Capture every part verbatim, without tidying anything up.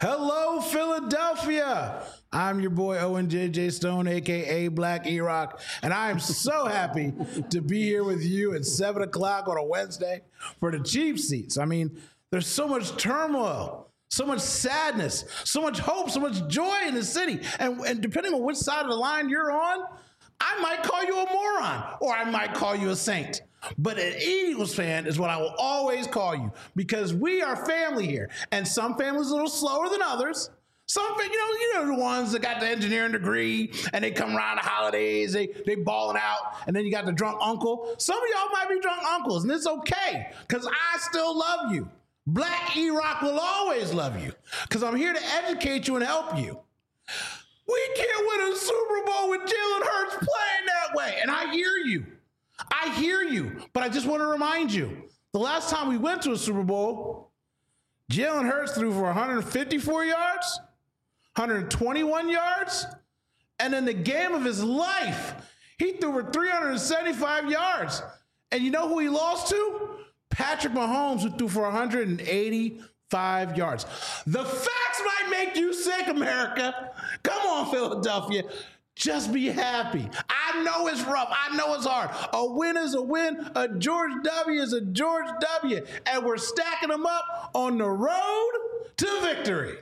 Hello, Philadelphia. I'm your boy Owen J J Stone, a k a. Black E-Rock, and I am so happy to be here with you at seven o'clock on a Wednesday for the cheap seats. I mean, there's so much turmoil, so much sadness, so much hope, so much joy in the city. And, and depending on which side of the line you're on, I might call you a moron or I might call you a saint. But an Eagles fan is what I will always call you because we are family here. And some families are a little slower than others. Some, you know, you know the ones that got the engineering degree and they come around the holidays, they they balling out, and then you got the drunk uncle. Some of y'all might be drunk uncles, and it's okay because I still love you. Black E-Rock will always love you because I'm here to educate you and help you. We can't win a Super Bowl with Jalen Hurts playing that way, and I hear you. I hear you, but I just want to remind you, the last time we went to a Super Bowl, Jalen Hurts threw for one hundred fifty-four yards, one hundred twenty-one yards, and in the game of his life, he threw for three hundred seventy-five yards. And you know who he lost to? Patrick Mahomes, who threw for one hundred eighty-five yards. The facts might make you sick, America. Come on, Philadelphia. Just be happy. I know it's rough. I know it's hard. A win is a win. A George W is a George W. And we're stacking them up on the road to victory.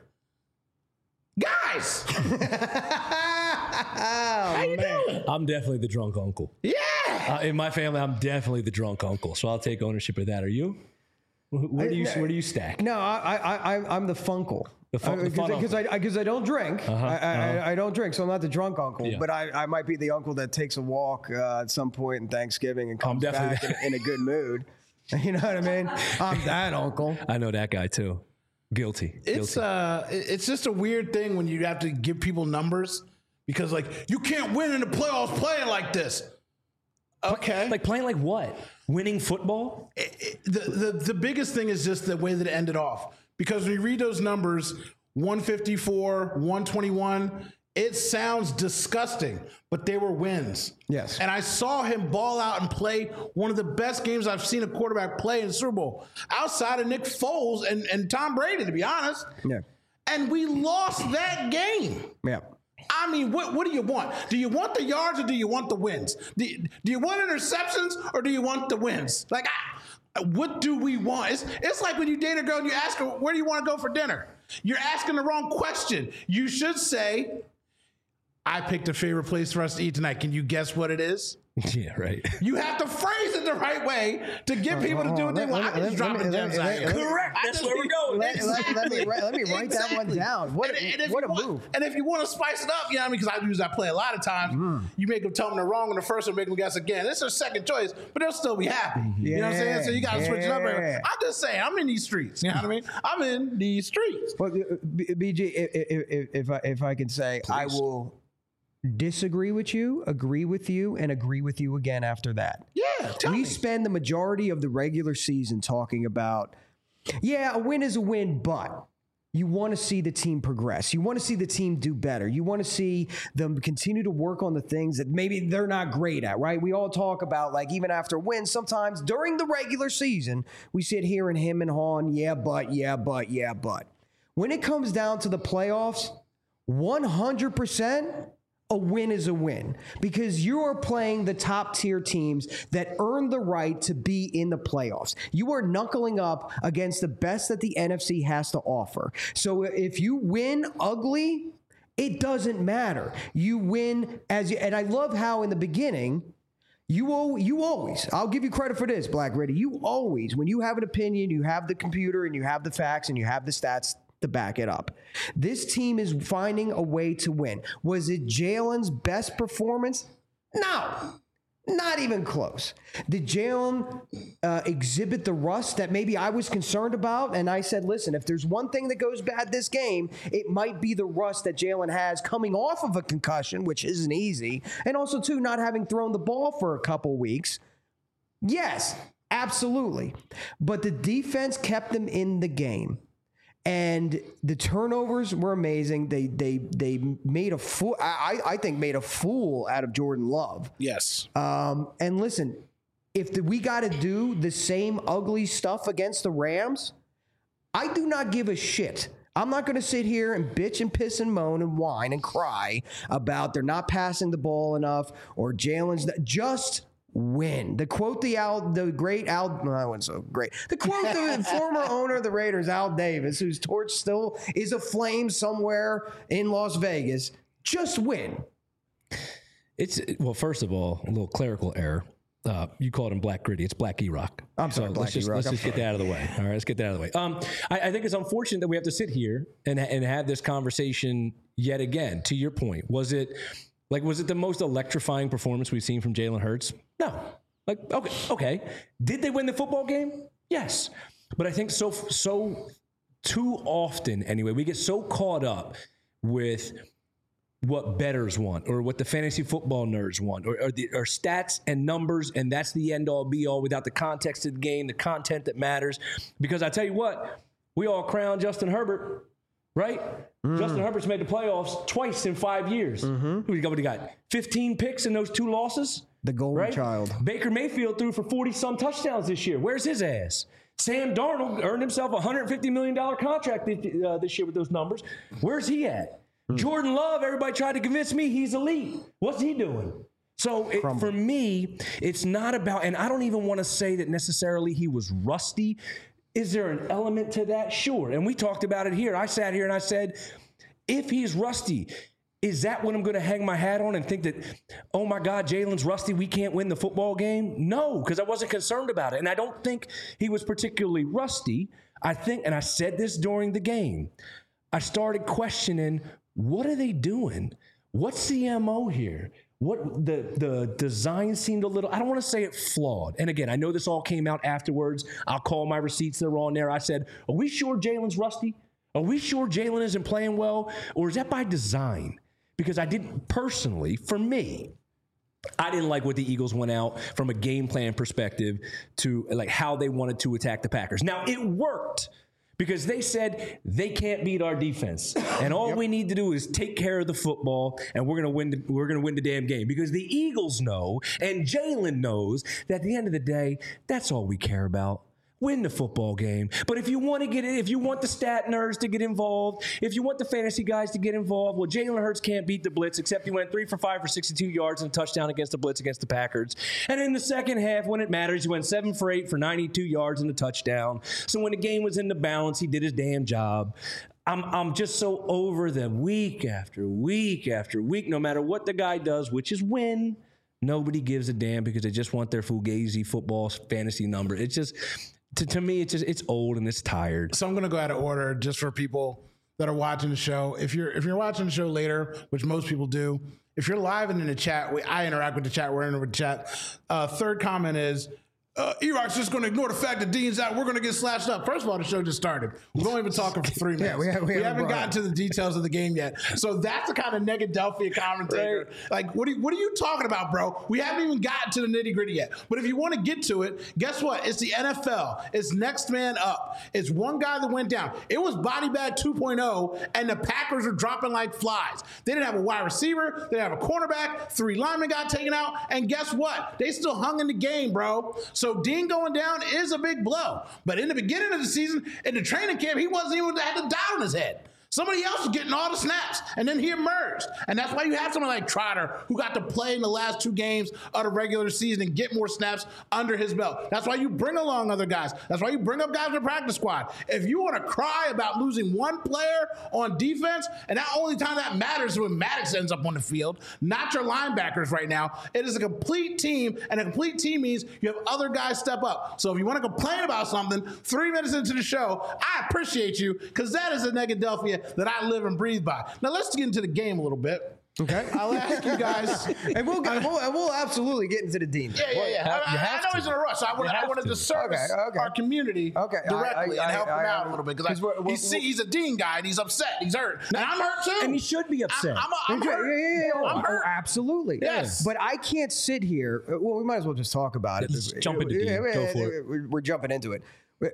Guys. oh, How you man. doing? I'm definitely the drunk uncle. Yeah. Uh, in my family, I'm definitely the drunk uncle. So I'll take ownership of that. Are you? Where do you where do you stack? No, I, I, I, I'm the funkle. The fun- the fun Because I, because I, I don't drink. Uh-huh, I, I, uh-huh. I, I don't drink, so I'm not the drunk uncle. Yeah. But I, I might be the uncle that takes a walk uh, at some point in Thanksgiving and comes definitely back in, in a good mood. You know what I mean? I'm that uncle. I know that guy too. Guilty. It's Guilty. uh, it's just a weird thing when you have to give people numbers because, like, you can't win in the playoffs playing like this. Okay, Like playing like what? Winning football? It- it- the, the the biggest thing is just the way that it ended off because when you read those numbers, one fifty-four, one twenty-one, it sounds disgusting, but they were wins. Yes. And I saw him ball out and play one of the best games I've seen a quarterback play in the Super Bowl, outside of Nick Foles and, and Tom Brady, to be honest. Yeah. And we lost that game. Yeah. I mean, what, what do you want? Do you want the yards or do you want the wins? Do you, do you want interceptions or do you want the wins? Like, I, what do we want? It's, it's like when you date a girl and you ask her, where do you want to go for dinner? You're asking the wrong question. You should say, I picked a favorite place for us to eat tonight. Can you guess what it is? Yeah, right. You have to phrase it the right way to get people to do what they want. I can just drop the gems out here. Correct. That's where we're going. Let, let, let me, write- let me write that one Exactly. down. What, And- and if what you a want- move. And if you want to spice it up, you know what I mean? Because I use that play a lot of times. You make them tell them they're wrong on the first one, make them guess again. It's their second choice, but they'll still be happy. You know what I'm saying? So you got to switch it up. Yeah. I'm just saying, I'm in these streets. You know what I mean? I'm in these streets. Well, uh, B- B G, if, if, if, I, if I can say, I Please. will disagree with you, agree with you, and agree with you again after that. Yeah, tell we me. spend the majority of the regular season talking about, yeah, a win is a win, but you want to see the team progress. You want to see the team do better. You want to see them continue to work on the things that maybe they're not great at, right? We all talk about, like, even after wins, sometimes during the regular season, we sit here and him and hawn, yeah, but, yeah, but, yeah, but. When it comes down to the playoffs, one hundred percent a win is a win because you are playing the top tier teams that earn the right to be in the playoffs. You are knuckling up against the best that the N F C has to offer. So if you win ugly, it doesn't matter. You win as you, and I love how in the beginning, You al- you always, I'll give you credit for this, Black Ready. You always, when you have an opinion, you have the computer and you have the facts and you have the stats to back it up. This team is finding a way to win. Was it Jalen's best performance? No, not even close. Did Jalen uh, exhibit the rust that maybe I was concerned about? And I said, listen, if there's one thing that goes bad this game, it might be the rust that Jalen has coming off of a concussion, which isn't easy. And also, too, not having thrown the ball for a couple weeks. Yes, absolutely. But the defense kept them in the game. And the turnovers were amazing. They they they made a fool. I I think made a fool out of Jordan Love. Yes. Um, and listen, if the, we got to do the same ugly stuff against the Rams, I do not give a shit I'm not going to sit here and bitch and piss and moan and whine and cry about they're not passing the ball enough or Jalen's not, just win. The quote the Al, the great Al, no, that wasn't so great. The quote the former owner of the Raiders, Al Davis, whose torch still is aflame somewhere in Las Vegas. Just win. It's well, first of all, a little clerical error. Uh, you called him Black Gritty. It's Black E-Rock. I'm sorry, so Black let's just, E-Rock. let's I'm just get that out of the way. All right, let's get that out of the way. Um, I, I think it's unfortunate that we have to sit here and and have this conversation yet again. To your point, was it like was it the most electrifying performance we've seen from Jalen Hurts? No. Like okay, okay. Did they win the football game? Yes. But I think so so too often anyway, we get so caught up with what bettors want or what the fantasy football nerds want or, or, the, or stats and numbers, and that's the end-all be-all without the context of the game, the content that matters. Because I tell you what, we all crown Justin Herbert, right? Mm. Justin Herbert's made the playoffs twice in five years. Mm-hmm. We got what he got? fifteen picks in those two losses? The golden right? child. Baker Mayfield threw for forty-some touchdowns this year. Where's his ass? Sam Darnold earned himself a one hundred fifty million dollars contract this, uh, this year with those numbers. Where's he at? Mm. Jordan Love, everybody tried to convince me he's elite. What's he doing? So it, for me, it's not about, and I don't even want to say that necessarily he was rusty. Is there an element to that? Sure. And we talked about it here. I sat here and I said, if he's rusty, is that what I'm going to hang my hat on and think that, oh my God, Jalen's rusty, we can't win the football game? No, because I wasn't concerned about it. And I don't think he was particularly rusty. I think, and I said this during the game, I started questioning, what are they doing? What's the M O here? What the the design seemed a little, I don't want to say it flawed. And again, I know this all came out afterwards. I'll call my receipts that are on there. I said, are we sure Jalen's rusty? Are we sure Jalen isn't playing well? Or is that by design? Because I didn't personally, for me, I didn't like what the Eagles went out from a game plan perspective to like how they wanted to attack the Packers. Now, it worked. Because they said they can't beat our defense, and all yep. we need to do is take care of the football, and we're gonna win. The, we're gonna win the damn game. Because the Eagles know, and Jalen knows that at the end of the day, that's all we care about. Win the football game. But if you want to get it, if you want the stat nerds to get involved, if you want the fantasy guys to get involved, well, Jalen Hurts can't beat the blitz, except he went three for five for sixty-two yards and a touchdown against the blitz against the Packers. And in the second half, when it matters, he went seven for eight for ninety-two yards and a touchdown. So when the game was in the balance, he did his damn job. I'm I'm just so over them week after week after week, no matter what the guy does, which is win. Nobody gives a damn because they just want their Fugazi football fantasy number. It's just... To, to me, it's just it's old and it's tired. So I'm going to go out of order just for people that are watching the show. If you're if you're watching the show later, which most people do, if you're live and in the chat, we, I interact with the chat. We're in with the chat. Uh, third comment is, uh, E-Rock's just going to ignore the fact that Dean's out. We're going to get slashed up. First of all, the show just started. We've only been talking for three minutes. Yeah, we, have, we, we haven't, haven't gotten to the details of the game yet. So that's the kind of Negadelphia commentator. Right. Like, what are, you, what are you talking about, bro? We haven't even gotten to the nitty gritty yet. But if you want to get to it, guess what? It's the N F L. It's next man up. It's one guy that went down. It was body bag two point oh, and the Packers are dropping like flies. They didn't have a wide receiver. They didn't have a cornerback. Three linemen got taken out. And guess what? They still hung in the game, bro. So Dean going down is a big blow. But in the beginning of the season, in the training camp, he wasn't even had the dot on his head. Somebody else was getting all the snaps, and then he emerged. And that's why you have someone like Trotter, who got to play in the last two games of the regular season and get more snaps under his belt. That's why you bring along other guys. That's why you bring up guys in the practice squad. If you want to cry about losing one player on defense, and that only time that matters is when Maddox ends up on the field, not your linebackers right now. It is a complete team, and a complete team means you have other guys step up. So if you want to complain about something three minutes into the show, I appreciate you, because that is a Negadelphia that I live and breathe by. Now let's get into the game a little bit. Okay, I'll ask you guys, and we'll, get, we'll we'll absolutely get into the Dean. Yeah, yeah, yeah. I, I, I know to. he's in a rush. So I want I wanted to service okay, okay. our community okay. directly I, I, and help I, I, him out I, a little bit because he's, he's a Dean guy and he's upset. He's hurt, and I'm hurt too. And he should be upset. I'm, I'm, I'm hurt. Yeah, yeah, yeah. I'm hurt. Oh, absolutely. Yes, but I can't sit here. Well, we might as well just talk about it. Let's jump into Dean. Go for it. We're, we're jumping into it.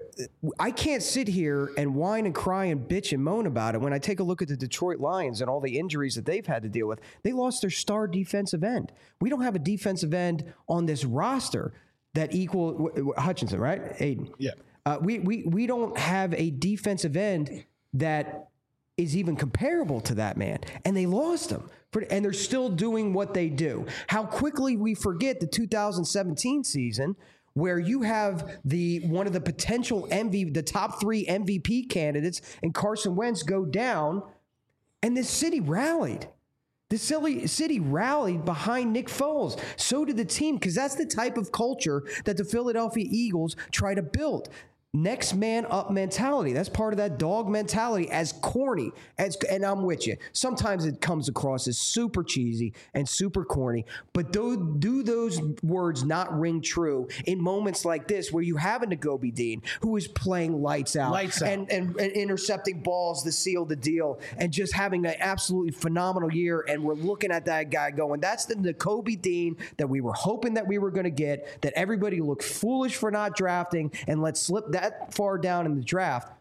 I can't sit here and whine and cry and bitch and moan about it when I take a look at the Detroit Lions and all the injuries that they've had to deal with. They lost their star defensive end. We don't have a defensive end on this roster that equal Hutchinson, right? Aiden. Yeah. Uh, we we we don't have a defensive end that is even comparable to that man. And they lost him. For, and they're still doing what they do. How quickly we forget the two thousand seventeen season where you have the one of the potential M V P, the top three M V P candidates, and Carson Wentz go down, and this city rallied. The city, city rallied behind Nick Foles. So did the team, because that's the type of culture that the Philadelphia Eagles try to build. Next man up mentality. That's part of that dog mentality. As corny as, and I'm with you. Sometimes it comes across as super cheesy and super corny, but do, do those words not ring true in moments like this where you have a Nakobe Dean who is playing lights out, lights out. And, and, and intercepting balls to seal the deal and just having an absolutely phenomenal year, and we're looking at that guy going, that's the Nakobe Dean that we were hoping that we were going to get, that everybody looked foolish for not drafting and let slip that that far down in the draft.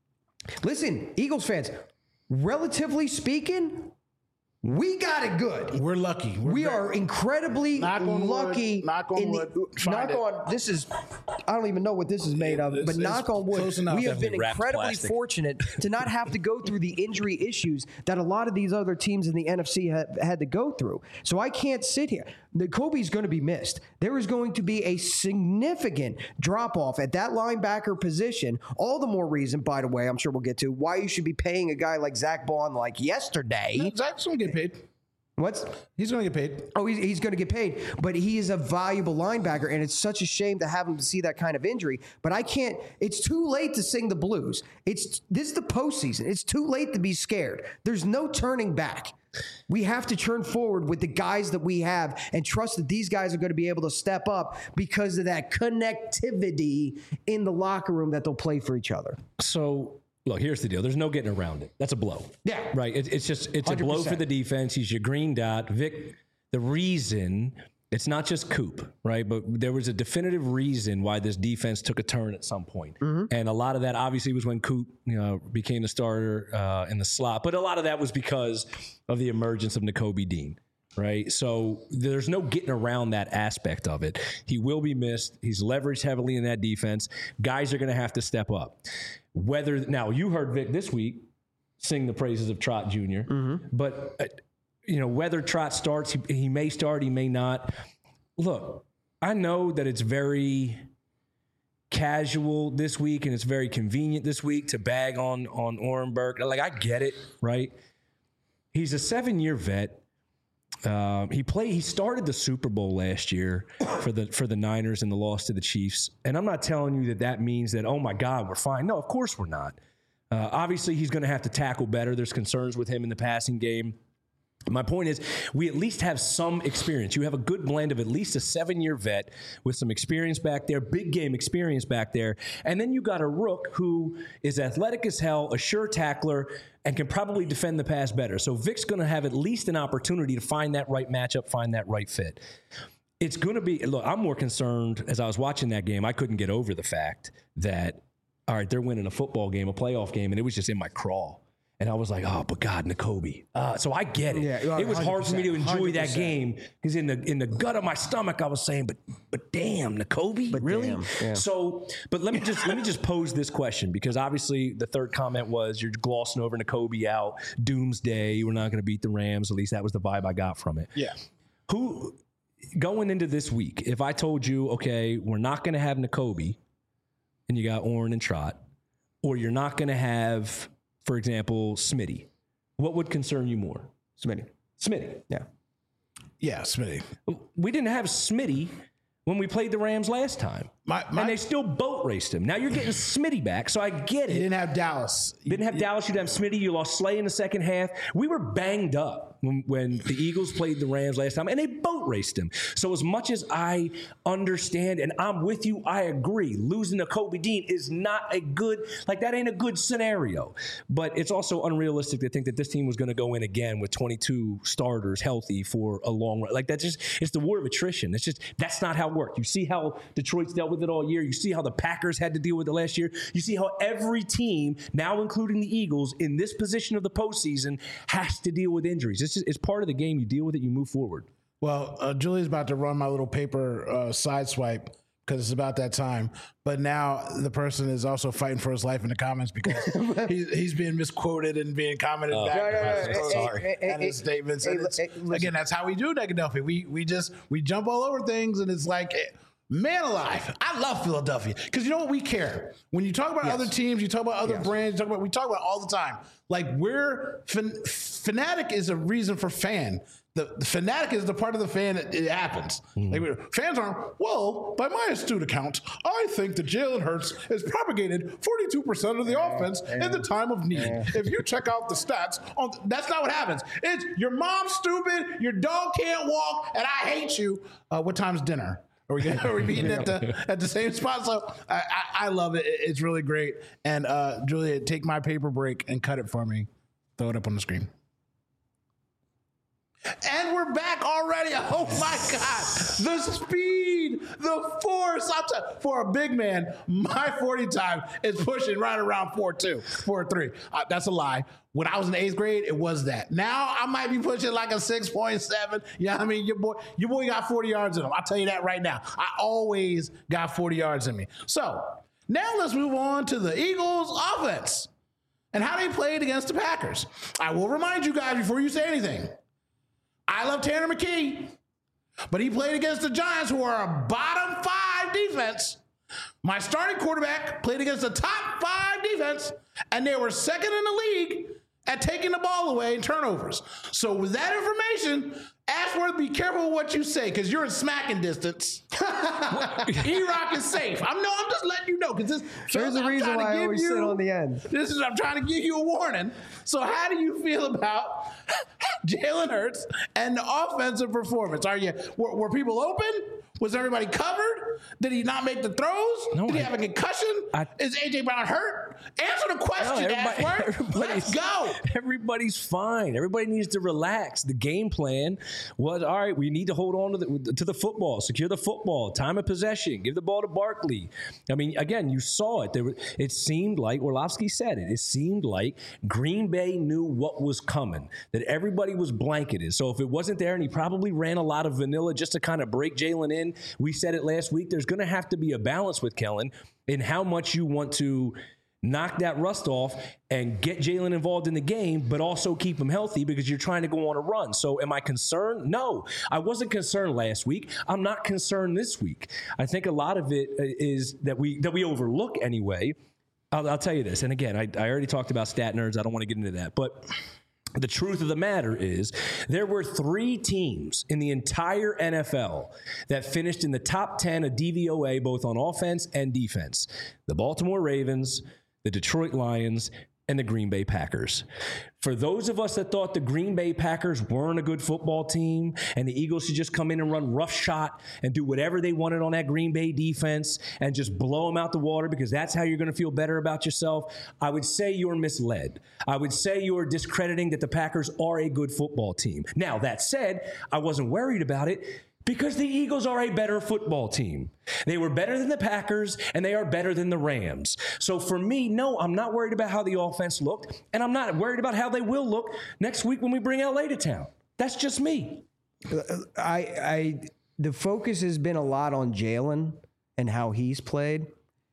Listen, Eagles fans, relatively speaking, we got it good. We're lucky. We're we very, are incredibly knock on lucky. Wood, knock on in wood. The, knock it. on. This is. I don't even know what this is made of, It's- but it's knock on wood. close enough. We have been Definitely wrapped incredibly plastic. fortunate to not have to go through the injury issues that a lot of these other teams in the N F C have had to go through. So I can't sit here. Nakobe's going to be missed. There is going to be a significant drop off at that linebacker position. All the more reason, by the way, I'm sure we'll get to why you should be paying a guy like Zach Bond like yesterday. Zach's going to get paid. What's He's going to get paid. Oh, he's, he's going to get paid, but he is a valuable linebacker, and it's such a shame to have him to see that kind of injury. But I can't. It's too late to sing the blues. It's this is the postseason. It's too late to be scared. There's no turning back. We have to turn forward with the guys that we have and trust that these guys are going to be able to step up because of that connectivity in the locker room that they'll play for each other. So, look, here's the deal. There's no getting around it. That's a blow. Yeah. Right? It, it's just, it's one hundred a blow percent. for the defense. He's your green dot. Vic, the reason, it's not just Coop, right? But there was a definitive reason why this defense took a turn at some point. Mm-hmm. And a lot of that obviously was when Coop, you know, became the starter uh, in the slot. But a lot of that was because of the emergence of Nakobe Dean. Right. So there's no getting around that aspect of it. He will be missed. He's leveraged heavily in that defense. Guys are going to have to step up. Whether now you heard Vic this week sing the praises of Trot Junior Mm-hmm. But, uh, you know, whether Trot starts, he, he may start, he may not. Look, I know that it's very casual this week and it's very convenient this week to bag on, on Orenberg. Like, I get it. Right. He's a seven year vet. Um, he played. He started the Super Bowl last year for the for the Niners in the loss to the Chiefs. And I'm not telling you that that means that, oh my God, we're fine. No, of course we're not. Uh, obviously, he's going to have to tackle better. There's concerns with him in the passing game. My point is, we at least have some experience. You have a good blend of at least a seven-year vet with some experience back there, big game experience back there, and then you got a rook who is athletic as hell, a sure tackler, and can probably defend the pass better. So Vic's going to have at least an opportunity to find that right matchup, find that right fit. It's going to be, look, I'm more concerned, as I was watching that game, I couldn't get over the fact that, all right, they're winning a football game, a playoff game, and it was just in my crawl. And I was like, oh, but God, Nakobe. Uh, so I get it. Yeah, it was hard for me to enjoy one hundred that percent. game because in the in the gut of my stomach, I was saying, but but damn, Nakobe, But really? damn, yeah. So, but let me just let me just pose this question because obviously the third comment was you're glossing over Nakobe out, doomsday. We're not going to beat the Rams. At least that was the vibe I got from it. Yeah. Who going into this week? If I told you, okay, we're not going to have Nakobe, and you got Oren and Trot, or you're not going to have, for example, Smitty, what would concern you more? Smitty. Smitty. Yeah. Yeah, Smitty. We didn't have Smitty when we played the Rams last time. My, my, and they still boat raced him. Now you're getting Smitty back, so I get you it. didn't have Dallas. Didn't have Dallas, you didn't have Smitty, you lost Slay in the second half. We were banged up when, when the Eagles played the Rams last time, and they boat raced him. So as much as I understand, and I'm with you, I agree, losing to Nakobe Dean is not a good, like that ain't a good scenario. But it's also unrealistic to think that this team was going to go in again with twenty-two starters healthy for a long run. Like that's just, it's the war of attrition. It's just, that's not how it worked. You see how Detroit's dealt with it all year. You see how the Packers had to deal with it last year. You see how every team, now including the Eagles, in this position of the postseason, has to deal with injuries. It's just, it's part of the game. You deal with it, you move forward. Well, uh, Julie's about to run my little paper uh, side swipe because it's about that time. But now the person is also fighting for his life in the comments because he, he's being misquoted and being commented Oh, back no, no, about no, his hey, sorry hey, hey, and his hey, statements. hey, And it's, hey, listen. again, that's how we do Negadelphia. We we just we jump all over things, and it's like, man alive, I love Philadelphia because you know what, we care. When you talk about Yes. other teams, you talk about other Yes. brands, you talk about we talk about it all the time. Like we're fan, fanatic is a reason for fan. The, the fanatic is the part of the fan that it happens. Mm. Like we- fans aren't, well, by my astute account, I think that Jalen Hurts has propagated forty-two percent of the offense in the time of need. If you check out the stats, on, that's not what happens. It's your mom's stupid, your dog can't walk, and I hate you. Uh, what time's dinner? Are we, are we meeting at the at the same spot? So I, I, I love it. It's really great. And uh, Julia, take my paper break and cut it for me. Throw it up on the screen. And we're back already. Oh my God. The speed, the force. I'm t- for a big man, my forty time is pushing right around four two, four three. Uh, that's a lie. When I was in the eighth grade, it was that. Now I might be pushing like a six point seven. You know what I mean? Your boy, your boy got forty yards in him. I'll tell you that right now. I always got forty yards in me. So now let's move on to the Eagles offense and how they played against the Packers. I will remind you guys before you say anything. I love Tanner McKee, but he played against the Giants, who are a bottom five defense. My starting quarterback played against the top five defense, and they were second in the league at taking the ball away in turnovers. So with that information, Ashworth, be careful what you say, because you're in smacking distance. E-Rock is safe. I'm no, I'm just letting you know, because this. There's I'm a reason trying to why I give always you- sit on the end. This is I'm trying to give you a warning. So how do you feel about Jalen Hurts and the offensive performance? Are you were, were people open? Was everybody covered? Did he not make the throws? No, Did he I- have a concussion? I- Is A J Brown hurt? Answer the question, No, Ashworth. Let's go. Everybody's fine. Everybody needs to relax. The game plan was, all right, we need to hold on to the, to the football, secure the football, time of possession, give the ball to Barkley. I mean, again, you saw it. There were, it seemed like, Orlovsky said it, it seemed like Green Bay knew what was coming, that everybody was blanketed. So if it wasn't there, and he probably ran a lot of vanilla just to kind of break Jalen in, we said it last week, there's going to have to be a balance with Kellen in how much you want to knock that rust off and get Jalen involved in the game, but also keep him healthy because you're trying to go on a run. So am I concerned? No, I wasn't concerned last week. I'm not concerned this week. I think a lot of it is that we that we overlook anyway. I'll, I'll tell you this, and again, I, I already talked about stat nerds. I don't want to get into that, but the truth of the matter is there were three teams in the entire N F L that finished in the top ten of D V O A, both on offense and defense. The Baltimore Ravens, the Detroit Lions, and the Green Bay Packers. For those of us that thought the Green Bay Packers weren't a good football team and the Eagles should just come in and run roughshod and do whatever they wanted on that Green Bay defense and just blow them out the water because that's how you're going to feel better about yourself, I would say you're misled. I would say you're discrediting that the Packers are a good football team. Now, that said, I wasn't worried about it because the Eagles are a better football team. They were better than the Packers, and they are better than the Rams. So for me, no, I'm not worried about how the offense looked, and I'm not worried about how they will look next week when we bring L A to town. That's just me. I, I, the focus has been a lot on Jalen and how he's played.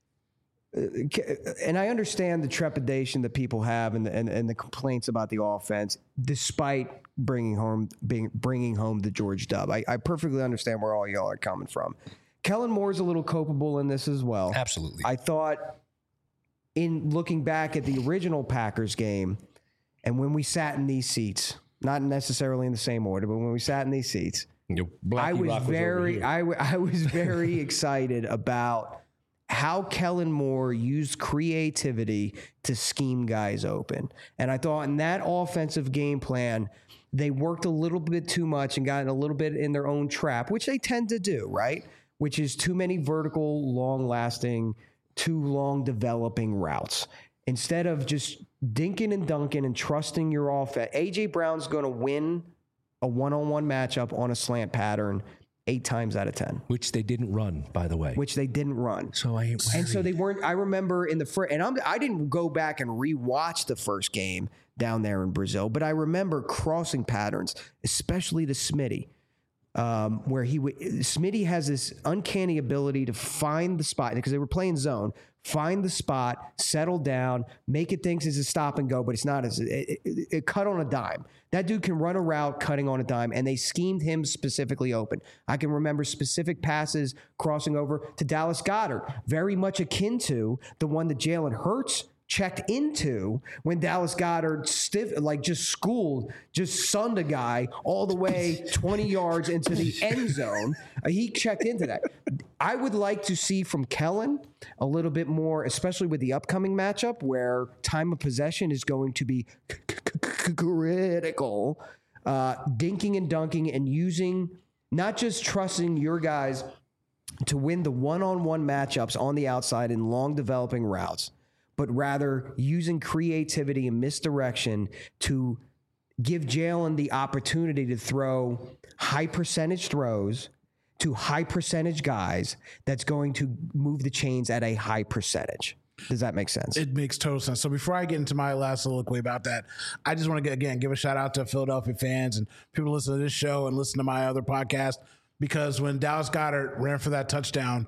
And I understand the trepidation that people have and the, and, and the complaints about the offense, despite bringing home being bringing home the George Dub. I, I perfectly understand where all y'all are coming from. Kellen Moore's a little culpable in this as well. Absolutely. I thought, in looking back at the original Packers game, and when we sat in these seats, not necessarily in the same order, but when we sat in these seats, I was very, I, w- I was very excited about how Kellen Moore used creativity to scheme guys open. And I thought in that offensive game plan, they worked a little bit too much and got a little bit in their own trap, which they tend to do, right? Which is too many vertical, long-lasting, too long developing routes. Instead of just dinking and dunking and trusting your offense, A J Brown's going to win a one-on-one matchup on a slant pattern eight times out of ten. Which they didn't run, by the way. Which they didn't run. So I ain't And so they weren't, I remember in the first, and I'm, I didn't go back and rewatch the first game down there in Brazil, but I remember crossing patterns, especially to Smitty. um, where he would, Smitty has this uncanny ability to find the spot because they were playing zone, find the spot, settle down, make it think it's a stop and go, but it's not. As it, it, it cut on a dime. That dude can run a route cutting on a dime, and they schemed him specifically open. I can remember specific passes crossing over to Dallas Goedert, very much akin to the one that Jalen Hurts checked into when Dallas Goedert stiff, like just schooled, just sunned a guy all the way twenty yards into the end zone. Uh, he checked into that. I would like to see from Kellen a little bit more, especially with the upcoming matchup where time of possession is going to be critical. Uh, dinking and dunking and using, not just trusting your guys to win the one-on-one matchups on the outside in long developing routes, but rather using creativity and misdirection to give Jalen the opportunity to throw high percentage throws to high percentage guys that's going to move the chains at a high percentage. Does that make sense? It makes total sense. So before I get into my last soliloquy about that, I just want to, again, give a shout out to Philadelphia fans and people who listen to this show and listen to my other podcast, because when Dallas Goedert ran for that touchdown,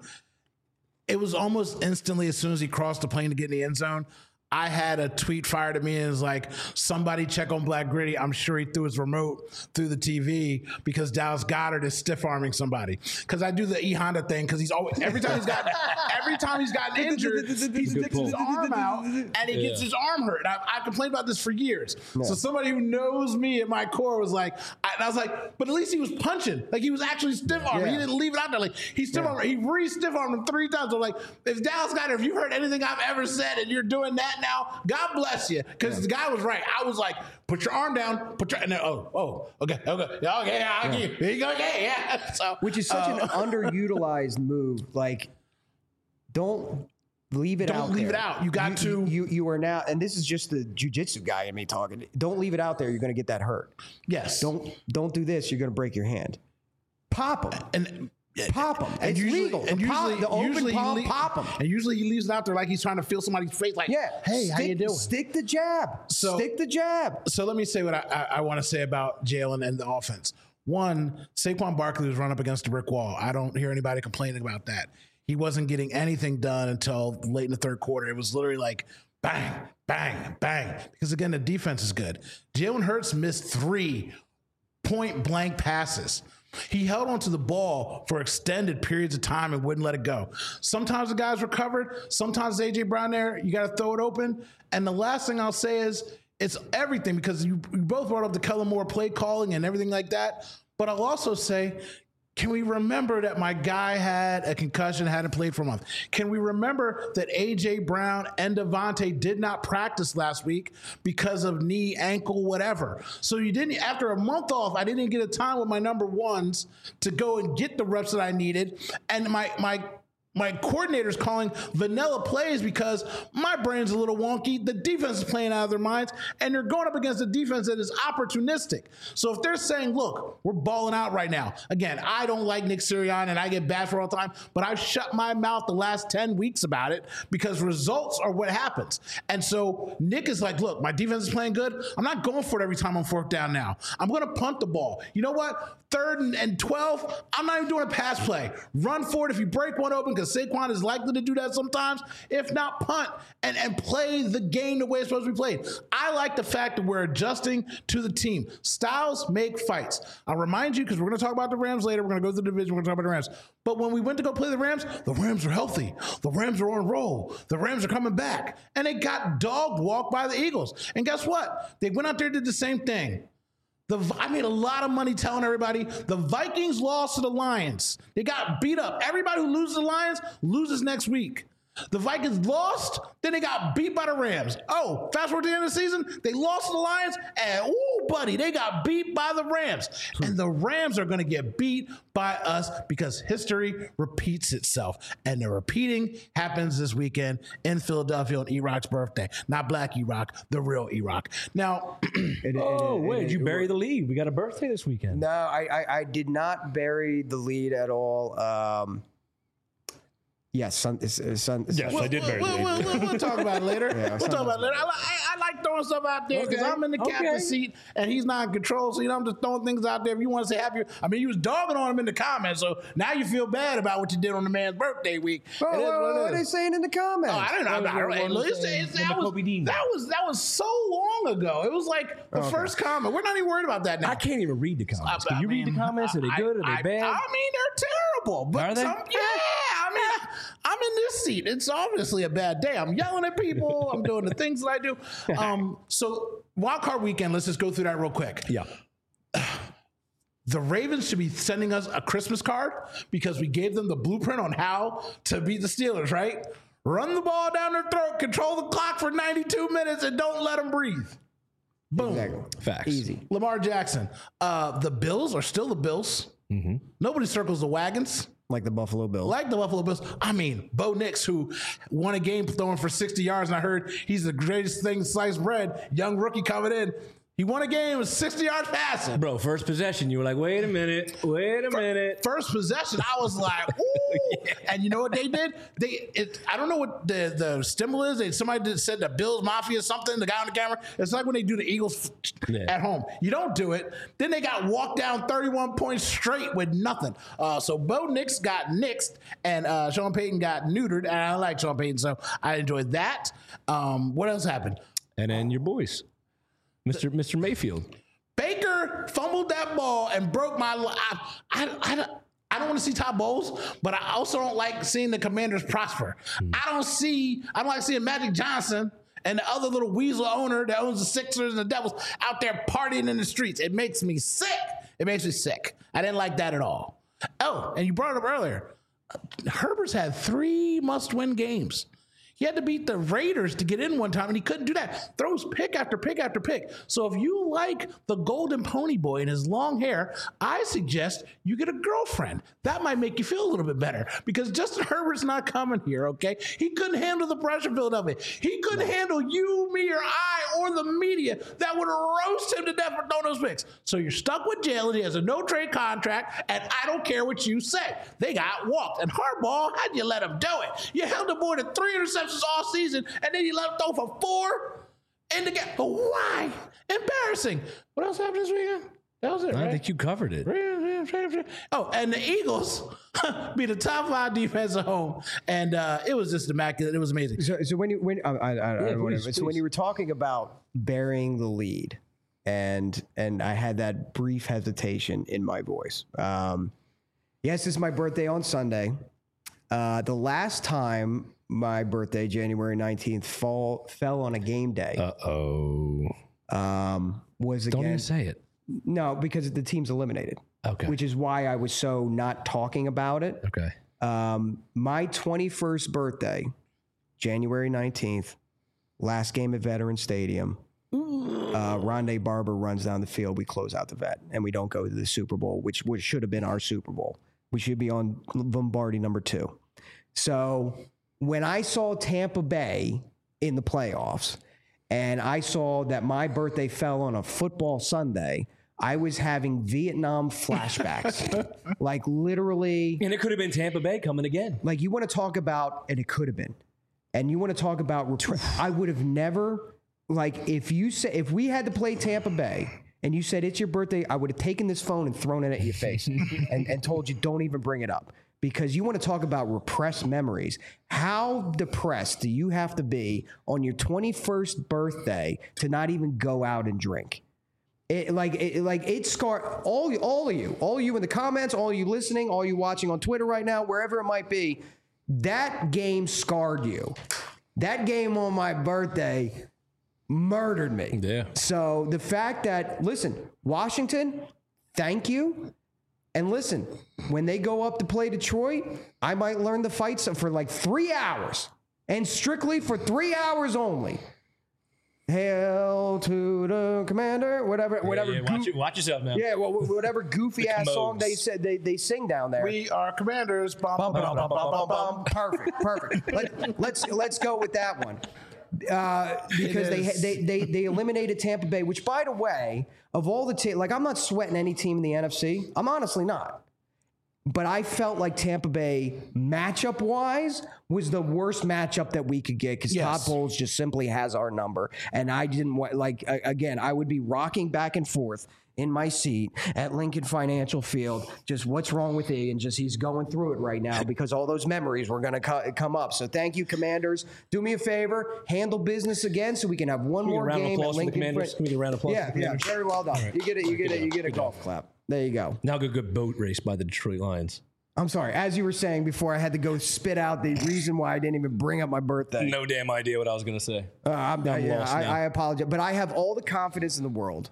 it was almost instantly as soon as he crossed the plane to get in the end zone, I had a tweet fired at me and it was like, somebody check on Black Gritty. I'm sure he threw his remote through the T V because Dallas Goedert is stiff arming somebody. Because I do the E Honda thing because he's always every time he's gotten every time he's gotten injured, he sticks his arm out and he gets yeah. his arm hurt. And I, I complained about this for years. Yeah. So somebody who knows me at my core was like, I, and I was like, but at least he was punching. Like he was actually stiff arming. Yeah. He didn't leave it out there. Like he stiff armed. Yeah. He re stiff armed him three times. I'm like, if Dallas Goedert, if you heard anything I've ever said and you're doing that now, God bless you, because yeah. the guy was right. I was like, put your arm down, put your, and then, oh, oh, okay, okay, yeah, okay, yeah, I'll yeah. Here you go, okay, yeah. So, which is such uh, an underutilized move. Like, don't leave it don't out Don't leave there. it out. You got you, to. You, you are now, and this is just the jiu-jitsu guy in me talking. Don't leave it out there. You're going to get that hurt. Yes. Don't, don't do this. You're going to break your hand. Pop him. And, Pop him. And it's usually, legal. And the usually, pop, the open usually palm, le- pop him. And usually he leaves it out there like he's trying to feel somebody's face. Like, yeah, hey, stick, how you doing? Stick the jab. So, stick the jab. So let me say what I, I, I want to say about Jalen and the offense. One, Saquon Barkley was run up against a brick wall. I don't hear anybody complaining about that. He wasn't getting anything done until late in the third quarter. It was literally like bang, bang, bang. Because again, the defense is good. Jalen Hurts missed three point blank passes. He held onto the ball for extended periods of time and wouldn't let it go. Sometimes the guys recovered. Sometimes A J Brown there, you got to throw it open. And the last thing I'll say is it's everything, because you, you both brought up the Kellen Moore play calling and everything like that. But I'll also say, can we remember that my guy had a concussion, hadn't played for a month? Can we remember that A J Brown and Devontae did not practice last week because of knee, ankle, whatever? So you didn't, after a month off, I didn't get a time with my number ones to go and get the reps that I needed. And my, my, My coordinator's calling vanilla plays because my brain's a little wonky. The defense is playing out of their minds, and they're going up against a defense that is opportunistic. So if they're saying, look, we're balling out right now. Again, I don't like Nick Sirianni, and I get bad for all the time, but I've shut my mouth the last ten weeks about it because results are what happens. And so Nick is like, look, my defense is playing good. I'm not going for it every time I'm fourth down now. I'm going to punt the ball. You know what? Third and, and twelve, I'm not even doing a pass play. Run for it if you break one open, because Saquon is likely to do that sometimes. If not, punt and, and play the game the way it's supposed to be played. I like the fact that we're adjusting to the team. Styles make fights. I'll remind you, because we're going to talk about the Rams later. We're going to go through the division. We're going to talk about the Rams. But when we went to go play the Rams, the Rams are healthy. The Rams are on roll. The Rams are coming back. And they got dog walked by the Eagles. And guess what? They went out there and did the same thing. The, I made a lot of money telling everybody the Vikings lost to the Lions. They got beat up. Everybody who loses the Lions loses next week. The Vikings lost, then they got beat by the Rams. Oh, fast forward to the end of the season, they lost to the Lions, and ooh, buddy, they got beat by the Rams. And the Rams are going to get beat by us because history repeats itself. And the repeating happens this weekend in Philadelphia on E-Rock's birthday. Not Black E-Rock, the real E-Rock. Now, it, oh, it, it, wait, it, did you it, bury it, the lead? We got a birthday this weekend. No, I, I, I did not bury the lead at all. Um, Yes, son, it's, it's, son, it's, Yes, I did very We'll, we'll, we'll, we'll talk about it later. Yeah, we'll talk about it later. I, I, I like throwing stuff out there because Okay. I'm in the captain's Okay. seat and he's not in control. So, you know, I'm just throwing things out there. If you want to say happy, I mean, you was dogging on him in the comments. So now you feel bad about what you did on the man's birthday week. Oh, It is what, what it what are they is. saying in the comments? Oh, I don't know. That was I don't, what hey, one look, was it's, saying it's, when that, the was, Kobe Dean- that was that was so long ago. It was like the Okay. first comment. We're not even worried about that now. I can't even read the comments. Can I you read mean, the comments? Are they good? Are they I, bad? I, I mean, they're terrible. But Are they? Some, yeah, I mean, I, I'm in this seat. It's obviously a bad day. I'm yelling at people. I'm doing the things that I do. Um, so wild card weekend. Let's just go through that real quick. yeah. The Ravens should be sending us a Christmas card because we gave them the blueprint on how to beat the Steelers, right? Run the ball down their throat, control the clock for ninety-two minutes, and don't let them breathe. Boom. Exactly. Facts. Easy. Lamar Jackson. Uh, the Bills are still the Bills. Mm-hmm. Nobody circles the wagons Like the Buffalo Bills. like the Buffalo Bills. I mean, Bo Nix, who won a game throwing for sixty yards, and I heard he's the greatest thing since sliced bread. Young rookie coming in. He won a game with sixty yards passing. Bro, first possession, you were like, wait a minute, wait a minute. First possession, I was like, ooh. Yeah. And you know what they did? They, it, I don't know what the, the stimul is. They, somebody did, said the Bills Mafia something, the guy on the camera. It's like when they do the Eagles Yeah. at home. You don't do it. Then they got walked down thirty-one points straight with nothing. Uh, so Bo Nix got nixed, and uh, Sean Payton got neutered. And I like Sean Payton, so I enjoyed that. Um, what else happened? And then your boys, Mister Mister Mayfield. Baker fumbled that ball and broke my. li- I, I, I, don't- I don't want to see Todd Bowles, but I also don't like seeing the Commanders prosper. I don't see. I don't like seeing Magic Johnson and the other little weasel owner that owns the Sixers and the Devils out there partying in the streets. It makes me sick. It makes me sick. I didn't like that at all. Oh, and you brought it up earlier. Herbert's had three must-win games. He had to beat the Raiders to get in one time, and he couldn't do that. Throws pick after pick after pick. So if you like the golden pony boy and his long hair, I suggest you get a girlfriend. That might make you feel a little bit better because Justin Herbert's not coming here, okay? He couldn't handle the pressure build of it. He couldn't handle you, me, or I, or the media that would roast him to death for throwing those picks. So you're stuck with Jalen. He has a no-trade contract, and I don't care what you say. They got walked. And Harbaugh, how'd you let him do it? You held him more than three interceptions all season, and then you let him throw for four in the game. Why? Embarrassing. What else happened this weekend? That was it, I right? think you covered it. Oh, and the Eagles beat the top five defense at home, and uh, it was just immaculate. It was amazing. So, so when you when I, I, I, I don't please, wanna- so when please. you were talking about burying the lead, and and I had that brief hesitation in my voice. Um, yes, it's my birthday on Sunday. Uh, the last time my birthday, January nineteenth, fall fell on a game day, Uh oh. um, was Don't even again say it. no because the team's eliminated, Okay. which is why I was so not talking about it. okay. Um, my twenty-first birthday, January nineteenth, last game at Veterans Stadium. Uh, Rondé Barber runs down the field. We close out the vet, and we don't go to the Super Bowl, which, which should have been our Super Bowl. We should be on Lombardi number two. So when I saw Tampa Bay in the playoffs, and I saw that my birthday fell on a football Sunday, I was having Vietnam flashbacks. Like literally, And it could have been Tampa Bay coming again. like you want to talk about, and it could have been, and you want to talk about, repre- I would have never, like if you say, if we had to play Tampa Bay and you said it's your birthday, I would have taken this phone and thrown it at your face and, and told you don't even bring it up. Because you want to talk about repressed memories. How depressed do you have to be on your twenty-first birthday to not even go out and drink? It, like, it, like it scarred all, all of you, all of you in the comments, all of you listening, all you watching on Twitter right now, wherever it might be. That game scarred you. That game on my birthday murdered me. Yeah. So the fact that, listen, Washington, thank you. And listen, when they go up to play Detroit, I might learn the fights for like three hours and strictly for three hours only. Hail to the commander, whatever, whatever. Yeah, goo- watch, it, watch yourself now. yeah, well, whatever goofy ass song they said they, they sing down there. We are Commanders. Bum, Bum, bum, bum, bum, bum, bum, bum, bum, bum. Perfect, perfect. Let, let's let's go with that one. Uh, because they, is. they they they eliminated Tampa Bay, which, by the way, of all the teams, like I'm not sweating any team in the N F C. I'm honestly not. But I felt like Tampa Bay, matchup-wise, was the worst matchup that we could get because Yes. Todd Bowles just simply has our number. And I didn't want, like, a- again, I would be rocking back and forth in my seat at Lincoln Financial Field. Just what's wrong with Ian? Just he's going through it right now because all those memories were going to co- come up. So thank you, Commanders. Do me a favor, handle business again so we can have one Can we get more a round of game at applause for the Lincoln. Commanders? Can we get a round of applause Yeah, for the yeah, Commanders? very well done. You get it. You get it. You get a golf clap. There you go. Now good, good boat race by the Detroit Lions. I'm sorry. As you were saying before, I had to go spit out the reason why I didn't even bring up my birthday. No damn idea what I was going to say. Uh, I'm, I'm yeah, lost I, now. I apologize, but I have all the confidence in the world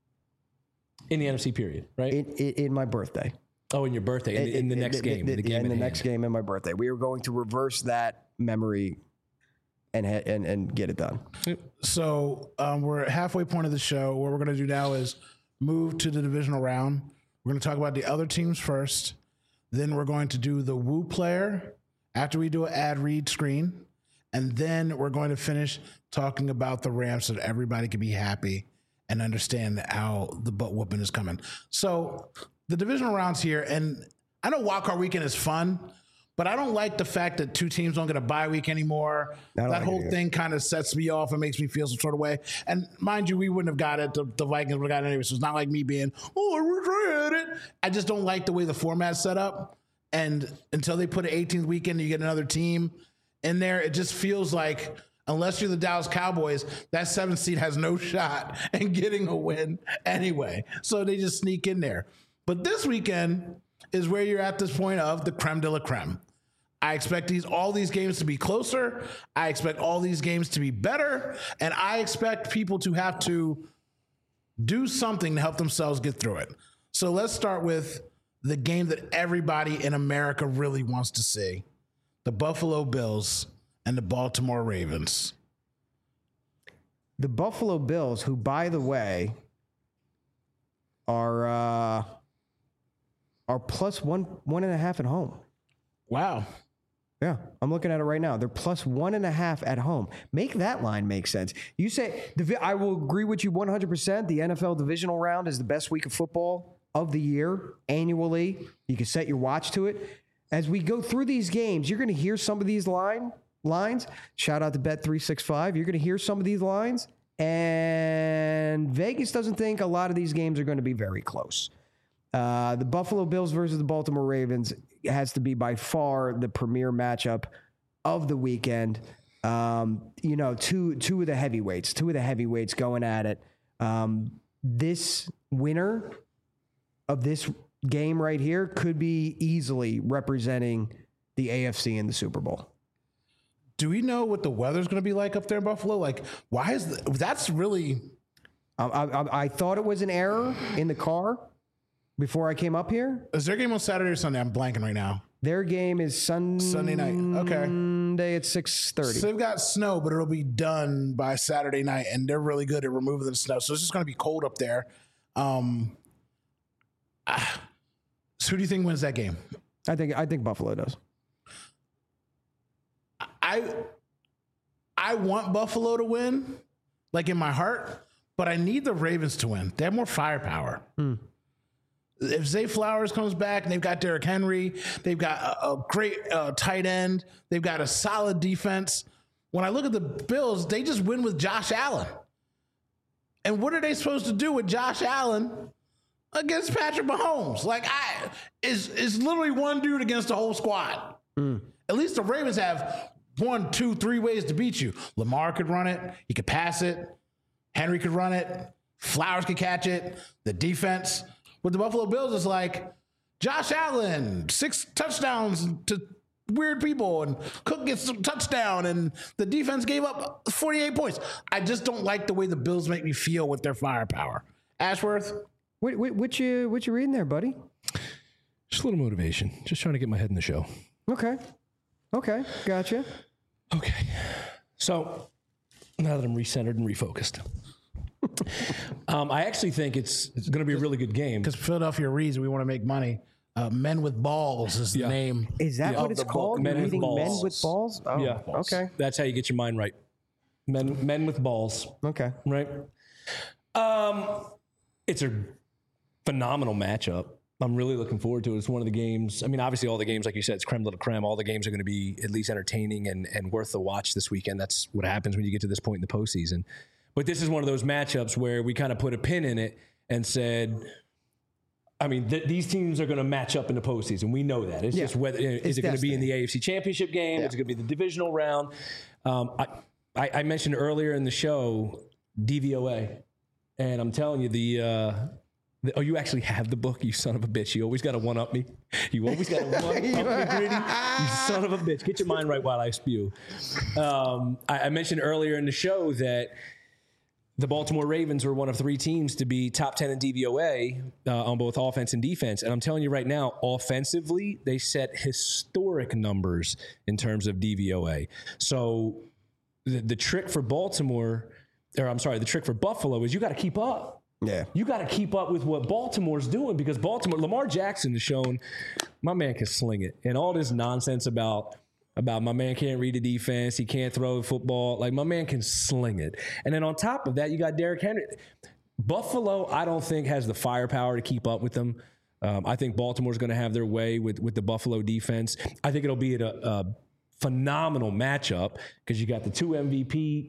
In the N F C period, right? in, in, in my birthday. oh, in your birthday, in, in the In- next in- game. in- the game yeah, in at the hand. next game in my birthday. We are going to reverse that memory and ha- and and get it done. So um, we're at halfway point of the show. What we're going to do now is move to the divisional round. We're going to talk about the other teams first. Then we're going to do the Woo player after we do an ad read screen. And then we're going to finish talking about the Rams so that everybody can be happy and understand how the butt whooping is coming. So the divisional rounds here, and I know Wild Card Weekend is fun, but I don't like the fact that two teams don't get a bye week anymore. don't That like it whole either. thing kind of sets me off and makes me feel some sort of way. And mind you, we wouldn't have got it. The, the Vikings would have got it anyway. So it's not like me being, oh, I wish I had it. I just don't like the way the format's set up. And until they put an eighteenth weekend, you get another team in there. It just feels like, unless you're the Dallas Cowboys, that seventh seed has no shot in getting a win anyway. So they just sneak in there. But this weekend is where you're at this point of the creme de la creme. I expect these all these games to be closer. I expect all these games to be better. And I expect people to have to do something to help themselves get through it. So let's start with the game that everybody in America really wants to see. The Buffalo Bills and the Baltimore Ravens. The Buffalo Bills, who, by the way, are uh, are plus one one and a half at home. Wow. Yeah, I'm looking at it right now. They're plus one and a half at home. Make that line make sense. You say, divi- I will agree with you one hundred percent. The N F L divisional round is the best week of football of the year annually. You can set your watch to it. As we go through these games, you're going to hear some of these line lines. Shout out to Bet three sixty-five. You're going to hear some of these lines. And Vegas doesn't think a lot of these games are going to be very close. Uh, the Buffalo Bills versus the Baltimore Ravens has to be by far the premier matchup of the weekend. Um, you know, two two of the heavyweights, two of the heavyweights going at it. Um, this winner of this game right here could be easily representing the A F C in the Super Bowl. Do we know what the weather's going to be like up there in Buffalo? Like, why is the, that's really... I, I, I thought it was an error in the car before I came up here. Is their game on Saturday or Sunday? I'm blanking right now. Their game is sun- Sunday night. Okay. Sunday at six thirty. So they've got snow, but it'll be done by Saturday night, and they're really good at removing the snow. So it's just going to be cold up there. Um, ah, so who do you think wins that game? I think I think Buffalo does. I I want Buffalo to win, like in my heart, but I need the Ravens to win. They have more firepower. Hmm. If Zay Flowers comes back and they've got Derrick Henry, they've got a, a great uh, tight end, they've got a solid defense. When I look at the Bills, they just win with Josh Allen. And what are they supposed to do with Josh Allen against Patrick Mahomes? Like, I is is literally one dude against the whole squad. Hmm. At least the Ravens have one, two, three ways to beat you. Lamar could run it. He could pass it. Henry could run it. Flowers could catch it. The defense. With the Buffalo Bills, it's like Josh Allen, six touchdowns to weird people, and Cook gets a touchdown, and the defense gave up forty-eight points. I just don't like the way the Bills make me feel with their firepower. Ashworth? What, what, what you what you reading there, buddy? Just a little motivation. Just trying to get my head in the show. Okay. Okay. Gotcha. Okay. So now that I'm recentered and refocused, um, I actually think it's, it's going to be a really good game. Because Philadelphia reads, we want to make money. Uh, Men with Balls is the Yeah. name. Is that Yeah. what Of it's the ball- called? Men with Reading men balls. with balls? Oh, Yeah. Okay. That's how you get your mind right. Men, men with balls, Okay. right? Um, it's a phenomenal matchup. I'm really looking forward to it. It's one of the games. I mean, obviously, all the games, like you said, it's creme de la creme. All the games are going to be at least entertaining and, and worth the watch this weekend. That's what happens when you get to this point in the postseason. But this is one of those matchups where we kind of put a pin in it and said, I mean, th- these teams are going to match up in the postseason. We know that. It's yeah. just whether is it's it going to be in the A F C Championship game? Yeah. Is it going to be the divisional round? Um, I, I, I mentioned earlier in the show D V O A, and I'm telling you the. Uh, Oh, you actually have the book, you son of a bitch. You always got to one-up me. You always got to one-up me, Gritty. You son of a bitch. Get your mind right while I spew. Um, I, I mentioned earlier in the show that the Baltimore Ravens were one of three teams to be top ten in D V O A uh, on both offense and defense. And I'm telling you right now, offensively, they set historic numbers in terms of D V O A. So the, the trick for Baltimore, or I'm sorry, the trick for Buffalo is you got to keep up. Yeah, you got to keep up with what Baltimore's doing because Baltimore, Lamar Jackson has shown my man can sling it, and all this nonsense about about my man can't read the defense, he can't throw the football, like my man can sling it. And then on top of that, you got Derrick Henry. Buffalo, I don't think has the firepower to keep up with them. Um, I think Baltimore's going to have their way with with the Buffalo defense. I think it'll be a, a phenomenal matchup because you got the two M V P,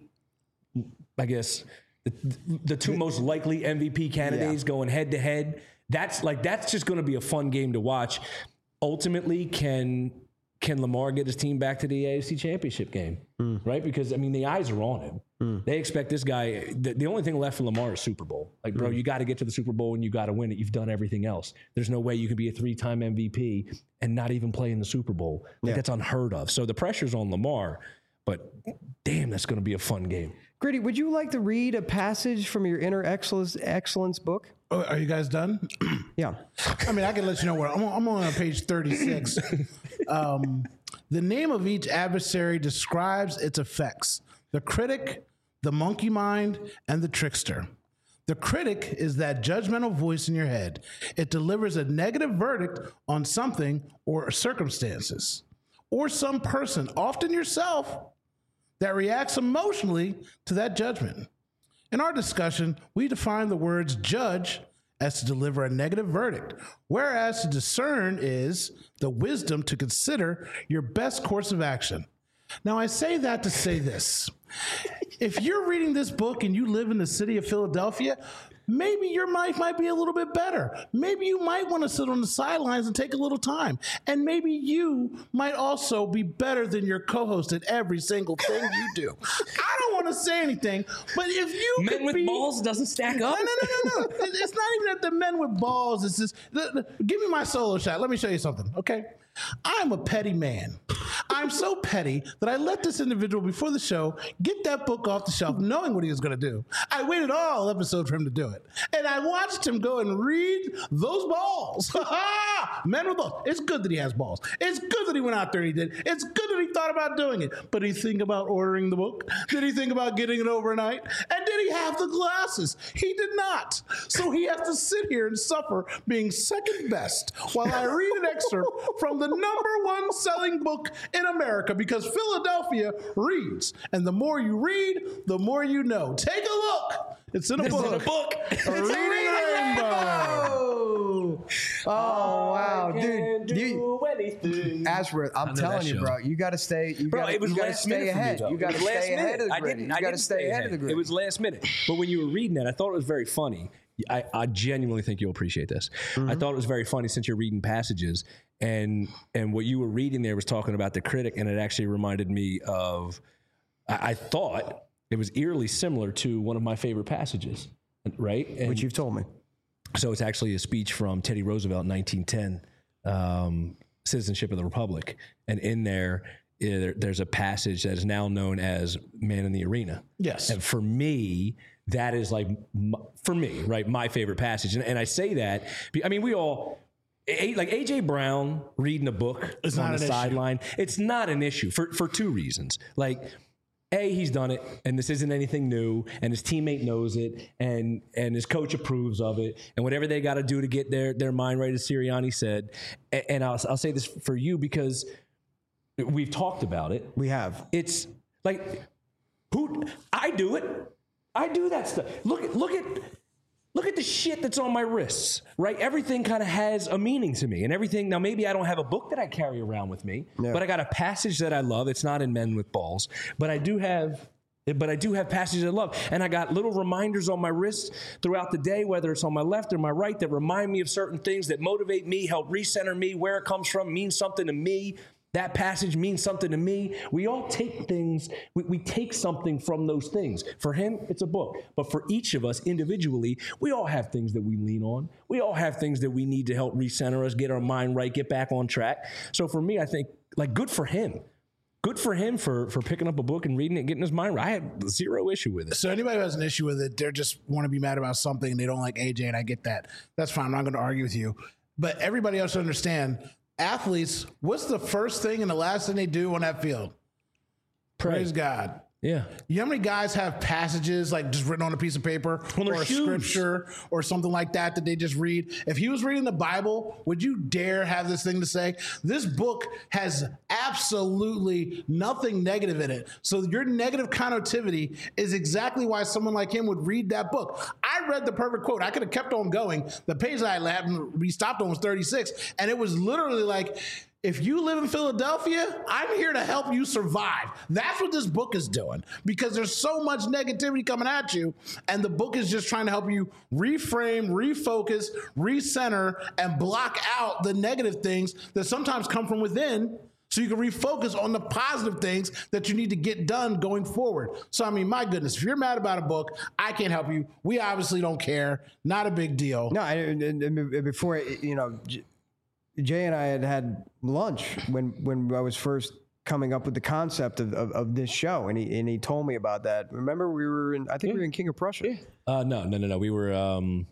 I guess. The, the two most likely M V P candidates yeah. going head to head. That's like that's just going to be a fun game to watch. Ultimately, can can Lamar get his team back to the A F C Championship game? Mm. Right? Because I mean, the eyes are on him. Mm. They expect this guy. The, the only thing left for Lamar is Super Bowl. Like, bro, mm. you got to get to the Super Bowl and you got to win it. You've done everything else. There's no way you can be a three-time M V P and not even play in the Super Bowl. Like, yeah. That's unheard of. So the pressure's on Lamar. But damn, that's going to be a fun game. Gritty, would you like to read a passage from your Inner Excellence, Excellence book? Oh, are you guys done? Yeah. I mean, I can let you know where I'm on, I'm on page thirty-six. um, the name of each adversary describes its effects: the critic, the monkey mind, and the trickster. The critic is that judgmental voice in your head. It delivers a negative verdict on something or circumstances, or some person, often yourself, that reacts emotionally to that judgment. In our discussion, we define the words judge as to deliver a negative verdict, whereas to discern is the wisdom to consider your best course of action. Now, I say that to say this. If you're reading this book and you live in the city of Philadelphia, maybe your life might be a little bit better. Maybe you might want to sit on the sidelines and take a little time. And maybe you might also be better than your co-host at every single thing you do. I don't want to say anything, but if you Men could with be, balls doesn't stack up? No, no, no, no, no. It's not even that the men with balls. It's just, the, the, give me my solo shot. Let me show you something, okay? I'm a petty man. I'm so petty that I let this individual before the show get that book off the shelf knowing what he was going to do. I waited all episode for him to do it. And I watched him go and read those balls. Men with balls. It's good that he has balls. It's good that he went out there and he did. It's good that he thought about doing it. But did he think about ordering the book? Did he think about getting it overnight? And did he have the glasses? He did not. So he has to sit here and suffer being second best while I read an excerpt from the number one selling book in America, because Philadelphia reads. And the more you read, the more you know. Take a look. It's in a it's book. In a book. It's a Reading Rainbow. Oh, wow. Dude, do anything. Ashworth, I'm telling you, show. bro, you got to stay, you got to stay ahead. You got to stay ahead of the grid. You got to stay ahead of the grid. It was last minute. But when you were reading that, I thought it was very funny. I, I genuinely think you'll appreciate this. Mm-hmm. I thought it was very funny since you're reading passages, and and what you were reading there was talking about the critic, and it actually reminded me of, I, I thought it was eerily similar to one of my favorite passages, right? And which you've told me. So it's actually a speech from Teddy Roosevelt in nineteen ten, um, Citizenship of the Republic, and in there, it, there's a passage that is now known as Man in the Arena. Yes. And for me, that is like, for me, right, my favorite passage. And, and I say that, I mean, we all, like A J Brown reading a book it's on not the sideline, issue. It's not an issue for, for two reasons. Like, A, he's done it, and this isn't anything new, and his teammate knows it, and and his coach approves of it, and whatever they got to do to get their, their mind right, as Sirianni said. And, and I'll, I'll say this for you because we've talked about it. We have. It's like, who I do it. I do that stuff. Look at look at look at the shit that's on my wrists, right? Everything kind of has a meaning to me and everything. Now, maybe I don't have a book that I carry around with me, yeah. but I got a passage that I love. It's not in Men with Balls, but I do have But I do have passages I love. And I got little reminders on my wrists throughout the day, whether it's on my left or my right, that remind me of certain things that motivate me, help recenter me, where it comes from, means something to me. That passage means something to me. We all take things, we, we take something from those things. For him, it's a book. But for each of us individually, we all have things that we lean on. We all have things that we need to help recenter us, get our mind right, get back on track. So for me, I think, like, good for him. Good for him for, for picking up a book and reading it, getting his mind right. I had zero issue with it. So anybody who has an issue with it, they just want to be mad about something and they don't like A J, and I get that. That's fine. I'm not going to argue with you. But everybody else should understand, athletes, what's the first thing and the last thing they do on that field? Pray. Praise God. Yeah. You know how many guys have passages like just written on a piece of paper on or a shoes. scripture or something like that that they just read? If he was reading the Bible, would you dare have this thing to say? This book has absolutely nothing negative in it. So your negative connotivity is exactly why someone like him would read that book. I read the perfect quote. I could have kept on going. The page that I had we stopped on was thirty-six, and it was literally like, if you live in Philadelphia, I'm here to help you survive. That's what this book is doing, because there's so much negativity coming at you, and the book is just trying to help you reframe, refocus, recenter, and block out the negative things that sometimes come from within, so you can refocus on the positive things that you need to get done going forward. So, I mean, my goodness, if you're mad about a book, I can't help you. We obviously don't care. Not a big deal. No, I, before, you know, Jay and I had had lunch when, when I was first coming up with the concept of, of, of this show, and he and he told me about that. Remember, we were in, I think yeah. we were in King of Prussia. Yeah. Uh, no, no, no, no. We were, um,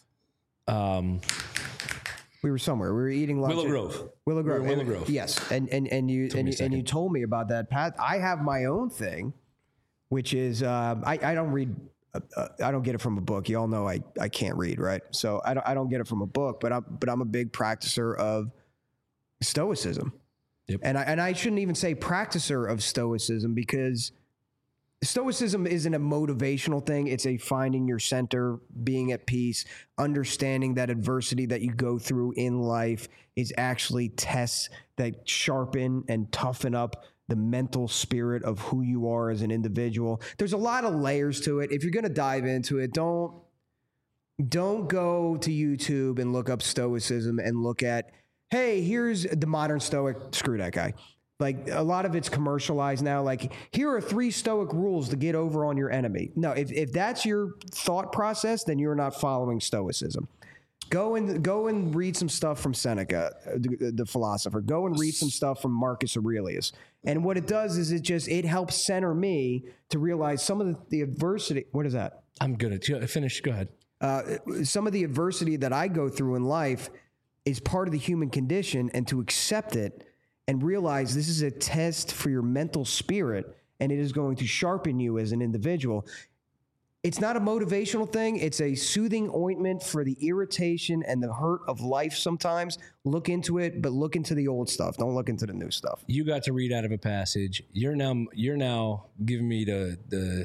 um, we were somewhere. We were eating lunch. Willow Grove. Willow Grove. We Willow Grove. Yes, and and and you and you, and you told me about that, Pat. I have my own thing, which is um, I I don't read. Uh, I don't get it from a book. You all know I, I can't read, right? So I don't I don't get it from a book, but I'm but I'm a big practicer of Stoicism. Yep. And I and I shouldn't even say practicer of Stoicism, because Stoicism isn't a motivational thing. It's a finding your center, being at peace, understanding that adversity that you go through in life is actually tests that sharpen and toughen up the mental spirit of who you are as an individual. There's a lot of layers to it. If you're going to dive into it, don't don't go to YouTube and look up Stoicism and look at, hey, here's the modern Stoic. Screw that guy. Like, a lot of it's commercialized now. Like, here are three Stoic rules to get over on your enemy. No, if, if that's your thought process, then you're not following Stoicism. Go and go and read some stuff from Seneca, the, the philosopher. Go and read some stuff from Marcus Aurelius. And what it does is it just, it helps center me to realize some of the, the adversity. What is that? I'm good at finish. Go ahead. Uh, some of the adversity that I go through in life is part of the human condition, and to accept it and realize this is a test for your mental spirit, and it is going to sharpen you as an individual. It's not a motivational thing. It's a soothing ointment for the irritation and the hurt of life sometimes. Look into it, but look into the old stuff. Don't look into the new stuff. You got to read out of a passage. You're now you're now giving me the the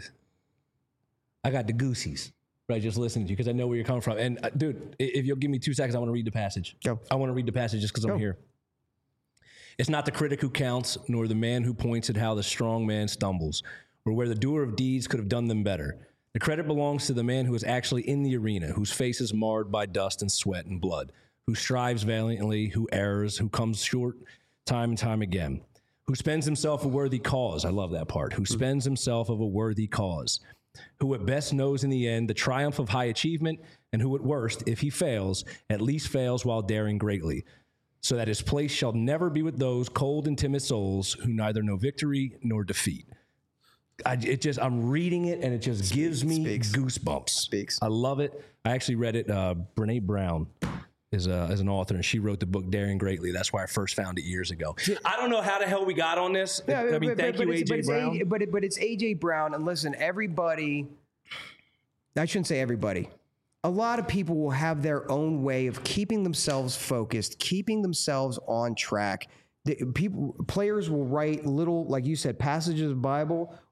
I got the goosies, right? Just listening to you, because I know where you're coming from. And uh, dude, if you'll give me two seconds, I want to read the passage. Go. I want to read the passage just because I'm here. It's not the critic who counts, nor the man who points at how the strong man stumbles, or where the doer of deeds could have done them better. The credit belongs to the man who is actually in the arena, whose face is marred by dust and sweat and blood, who strives valiantly, who errs, who comes short time and time again, who spends himself a worthy cause. I love that part. Who spends himself of a worthy cause, who at best knows in the end the triumph of high achievement, and who at worst, if he fails, at least fails while daring greatly, so that his place shall never be with those cold and timid souls who neither know victory nor defeat. I, it just, I'm reading it and it just Speaks, gives me speaks. goosebumps. Speaks. I love it. I actually read it. Uh, Brene Brown is, a, is an author, and she wrote the book Daring Greatly. That's why I first found it years ago. I don't know how the hell we got on this. Yeah, I mean, but, thank but, you, A J Brown. A, but, it, but it's A J Brown. And listen, everybody, I shouldn't say everybody. A lot of people will have their own way of keeping themselves focused, keeping themselves on track. The people, players will write little, like you said, passages of Bible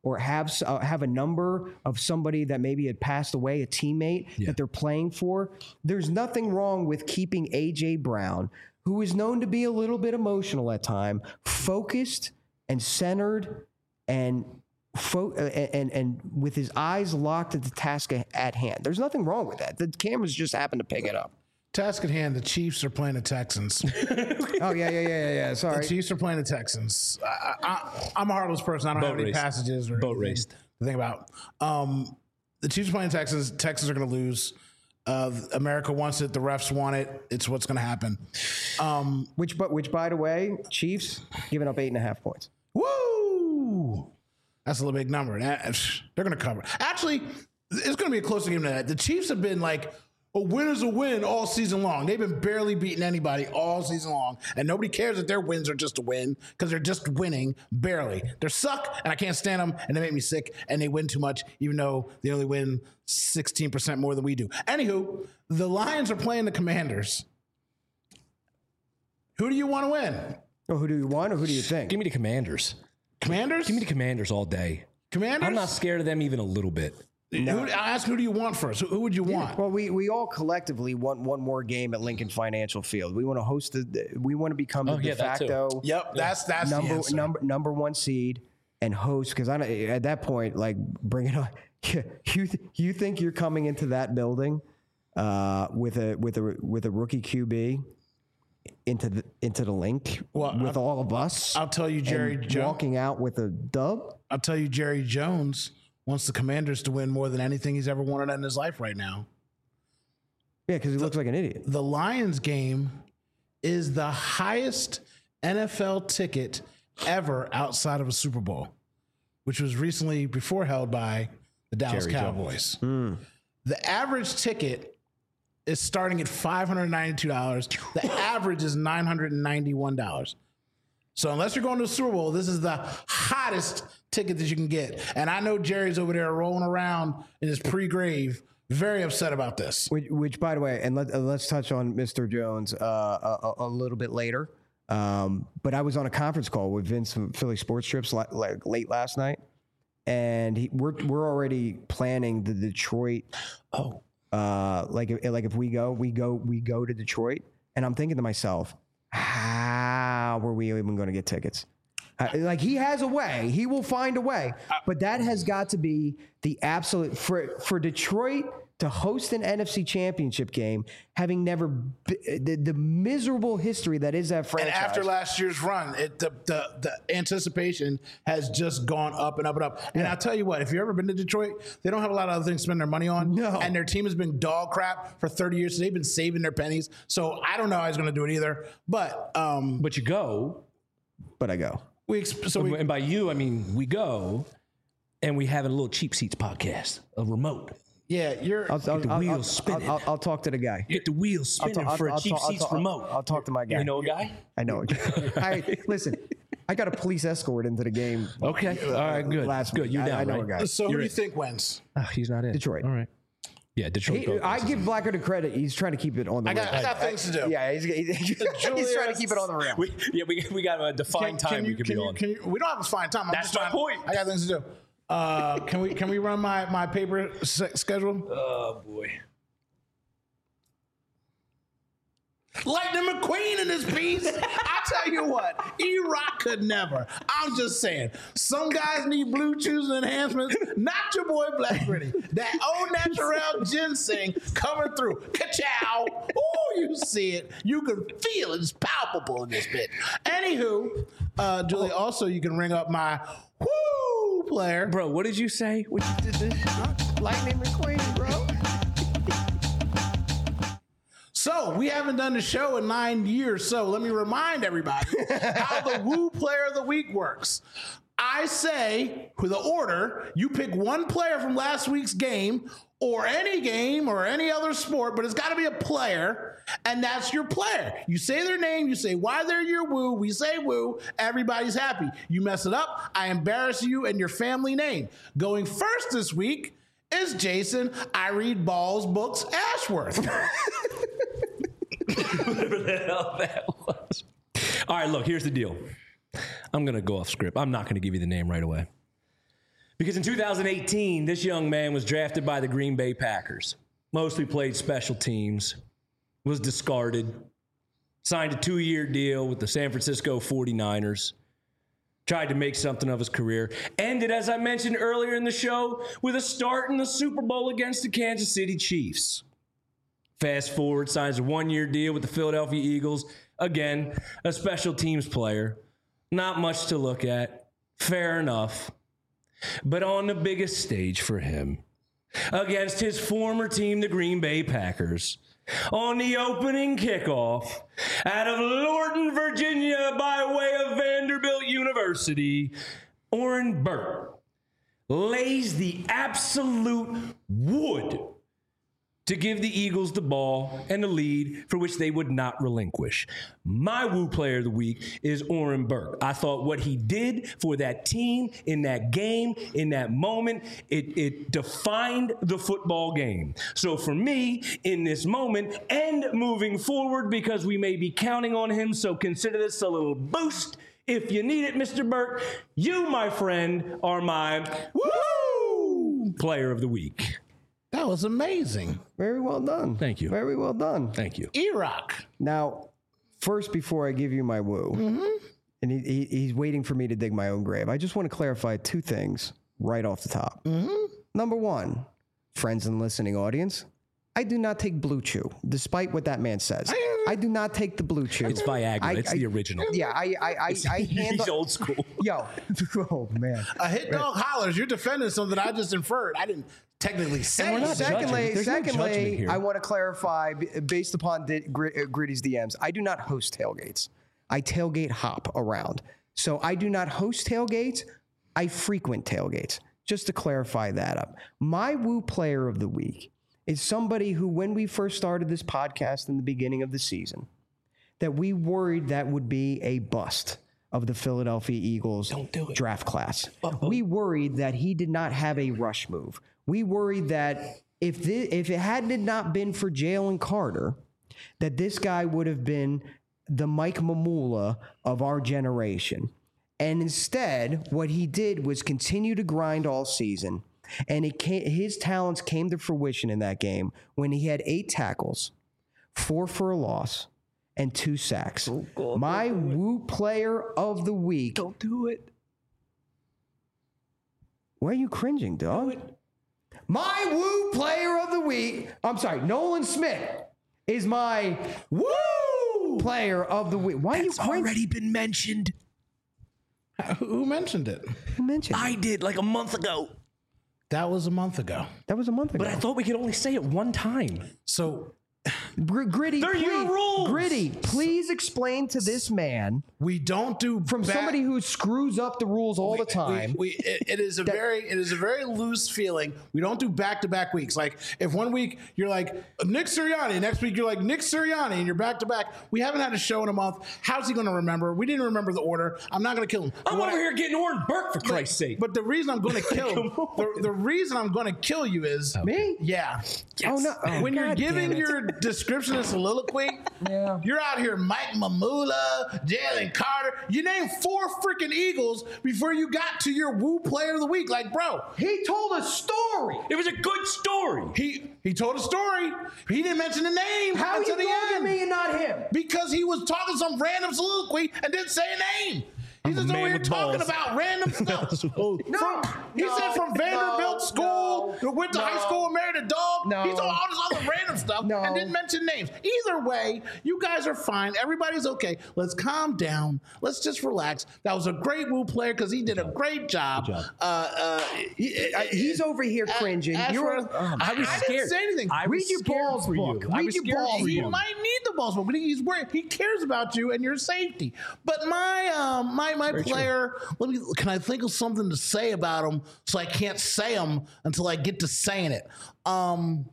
or have uh, have a number of somebody that maybe had passed away, a teammate Yeah. that they're playing for. There's nothing wrong with keeping A J Brown, who is known to be a little bit emotional at time, focused and centered and fo- uh, and and with his eyes locked at the task at hand. There's nothing wrong with that. The cameras just happen to pick it up. Task at hand, the Chiefs are playing the Texans. Oh yeah, yeah, yeah, yeah. yeah. Sorry. The Chiefs are playing the Texans. I, I, I'm a heartless person. I don't Boat have any raced. passages or Boat anything raced. to think about. Um, the Chiefs are playing Texans. Texans are going to lose. Uh, America wants it. The refs want it. It's what's going to happen. Um, Which, but which, by the way, Chiefs giving up eight and a half points. woo! That's a little big number. That- they're going to cover. Actually, it's going to be a closer game than that. The Chiefs have been like, a win is a win all season long. They've been barely beating anybody all season long, and nobody cares that their wins are just a win because they're just winning barely. They suck, and I can't stand them, and they make me sick, and they win too much, even though they only win sixteen percent more than we do. Anywho, the Lions are playing the Commanders. Who do you want to win? Oh, who do you want or who do you think? Give me the Commanders. Commanders? Give me the Commanders all day. Commanders? I'm not scared of them even a little bit. Who, I ask who do you want first? Who, who would you want? Well, we, we all collectively want one more game at Lincoln Financial Field. We want to host the. We want to become the Oh, de yeah, that too. facto Yep, that's that's the number answer. number number one seed and host. Because I don't- at that point, like bring it on. You th- you think you're coming into that building uh, with a with a with a rookie Q B into the into the link Well, with I'll- all of us? I'll tell you, Jerry and Jones. walking out with a dub. I'll tell you, Jerry Jones wants the Commanders to win more than anything he's ever wanted in his life right now. Yeah, because he looks like an idiot. The Lions game is the highest N F L ticket ever outside of a Super Bowl, which was recently before held by the Dallas Jerry Cowboys. The average ticket is starting at five hundred ninety-two dollars. The average is nine hundred ninety-one dollars. So unless you're going to the Super Bowl, this is the hottest ticket that you can get. And I know Jerry's over there rolling around in his pre-grave, very upset about this. Which, which, by the way, and let, uh, let's touch on Mister Jones uh, a, a little bit later. Um, but I was on a conference call with Vince from Philly Sports Trips like, like late last night, and he, we're we're already planning the Detroit. Oh, Uh, like if, like if we go, we go, we go to Detroit, and I'm thinking to myself, how were we even going to get tickets? Uh, like he has a way, he will find a way, but that has got to be the absolute for for Detroit to host an N F C Championship game, having never b- the, the miserable history that is that and franchise. after last year's run, it, the, the the anticipation has just gone up and up and up. And I'll tell you what, if you've ever been to Detroit, they don't have a lot of other things to spend their money on. No. And their team has been dog crap for thirty years. So they've been saving their pennies. So I don't know how he's going to do it either. But um, But you go, but I go. we exp- so we and by you, I mean we go, and we have a little Cheap Seats podcast, a remote. yeah, you're. I'll, I'll, the I'll, wheels I'll, spinning. I'll, I'll talk to the guy. Get the wheels spinning I'll- for I'll- a Cheap I'll- Seats I'll- remote. I'll talk to my guy. You know a guy? I know. I listen. I got a police escort into the game. Okay, all right, good. Last good. week. You're I- down, I know right? a guy. so who You're do you in. think wins? Oh, he's not in Detroit. All right. Yeah, Detroit. He- goes. I give Blacker the credit. He's trying to keep it on the I got, I rim. got things to do. Yeah, he's, he's, he's trying to keep it on the rim. We, yeah, we, we got a defined Can- can time you- we could can be you- on. can you- we don't have a fine time. I'm That's just my trying- point. I got things to do. Uh, can we can we run my my paper se- schedule? Oh boy. Lightning McQueen in this piece. I tell you what, E-Rock could never. I'm just saying, some guys need blue chews and enhancements. Not your boy Black Gritty. That au naturel ginseng coming through. Ka-chow. Oh, you see it. You can feel it. It's palpable in this bit. Anywho, uh, Julie, also you can ring up my woo player. Bro, what did you say? What you did this? Lightning McQueen, bro. So we haven't done the show in nine years. So let me remind everybody how the Woo Player of the Week works. I say, with the order, you pick one player from last week's game or any game or any other sport, but it's got to be a player, and that's your player. You say their name, you say why they're your woo, we say woo, everybody's happy. You mess it up, I embarrass you and your family name. Going first this week is Jason, I read balls, books, Ashworth. Whatever the hell that was. All right, look, here's the deal. I'm going to go off script. I'm not going to give you the name right away. Because in two thousand eighteen, this young man was drafted by the Green Bay Packers. Mostly played special teams, was discarded, signed a two-year deal with the San Francisco forty-niners, tried to make something of his career, ended, as I mentioned earlier in the show, with a start in the Super Bowl against the Kansas City Chiefs. Fast forward, signs a one-year deal with the Philadelphia Eagles. Again, a special teams player. Not much to look at. Fair enough. But on the biggest stage for him, against his former team, the Green Bay Packers, on the opening kickoff out of Lorton, Virginia, by way of Vanderbilt University, Oren Burke lays the absolute wood to give the Eagles the ball and the lead for which they would not relinquish. My Woo Player of the Week is Oren Burke. I thought what he did for that team in that game, in that moment, it, it defined the football game. So for me, in this moment and moving forward, because we may be counting on him, so consider this a little boost. If you need it, Mister Burke, you, my friend, are my Woo Player of the Week. That was amazing. Very well done. Thank you. Very well done. Thank you. E-Rock. Now, first, before I give you my woo, mm-hmm. and he, he, he's waiting for me to dig my own grave, I just want to clarify two things right off the top. Mm-hmm. Number one, friends and listening audience, I do not take Blue Chew, despite what that man says. I, I do not take the Blue Chew. It's Viagra. I, it's I, the original. Yeah, I I, I, I handle... He's old school. Yo. Oh, man. A hit dog hollers. You're defending something I just inferred. I didn't technically say. we're not Secondly, There's no judgment secondly, here. I want to clarify, b- based upon di- Gr- uh, Gritty's D Ms, I do not host tailgates. I tailgate hop around. So I do not host tailgates. I frequent tailgates. Just to clarify that up. My Woo Player of the Week is somebody who, when we first started this podcast in the beginning of the season, that we worried that would be a bust of the Philadelphia Eagles Don't do it. draft class. Uh-oh. We worried that he did not have a rush move. We worried that if this, if it had not been for Jalen Carter, that this guy would have been the Mike Mamula of our generation. And instead, what he did was continue to grind all season. And it came, his talents came to fruition in that game when he had eight tackles, four for a loss, and two sacks. Oh, God, My Woo Player of the Week. Don't do it. Why are you cringing, dog? My Woo Player of the Week. I'm sorry, Nolan Smith is my Woo Player of the Week. Why That's are you cringing? already been mentioned. Who mentioned it? Who mentioned? I did like a month ago. That was a month ago. That was a month ago. But I thought we could only say it one time. So Gr- Gritty, They're please, your rules. Gritty, please explain to this man we don't do from back- somebody who screws up the rules all the We- time. We, it, it is a very it is a very loose feeling. We don't do back to back weeks. Like if one week you're like Nick Sirianni, next week you're like Nick Sirianni, and you're back to back. We haven't had a show in a month. How's he going to remember? We didn't remember the order. I'm not going to kill him. I'm What over I- here getting Oren Burke for Christ's sake. But the reason I'm going to kill him, Come on. the, the reason I'm going to kill you is Me? Yeah. Oh, no. Oh, when you're God giving damn it. your description of soliloquy, Yeah. you're out here Mike Mamula, Jalen Carter. You named four freaking Eagles before you got to your Woo Player of the Week. Like, bro, He told a story. It was a good story. he he told a story. He didn't mention the name How are until you the talking end to me and not him? because he was talking some random soliloquy and didn't say a name. He's I'm a just over man here with talking balls. about random stuff. Oh, No, From- he no, said from Vanderbilt no, School, no, went to no. high school and married a dog. No. He told all this other random stuff No. and didn't mention names. Either way, you guys are fine. Everybody's okay. Let's calm down. Let's just relax. That was a great Woo player because he did a great job. job. Uh, uh, he- I- he's over here cringing. as You're for- oh, I was I scared. didn't say anything. I Read was your scared balls for book. you. I Read was your scared balls for He you. book. might need the balls, but he's worried. He cares about you and your safety. But my um, my my player, let me. Can I think of something to say about him so I can't say him until I get to saying it? Um,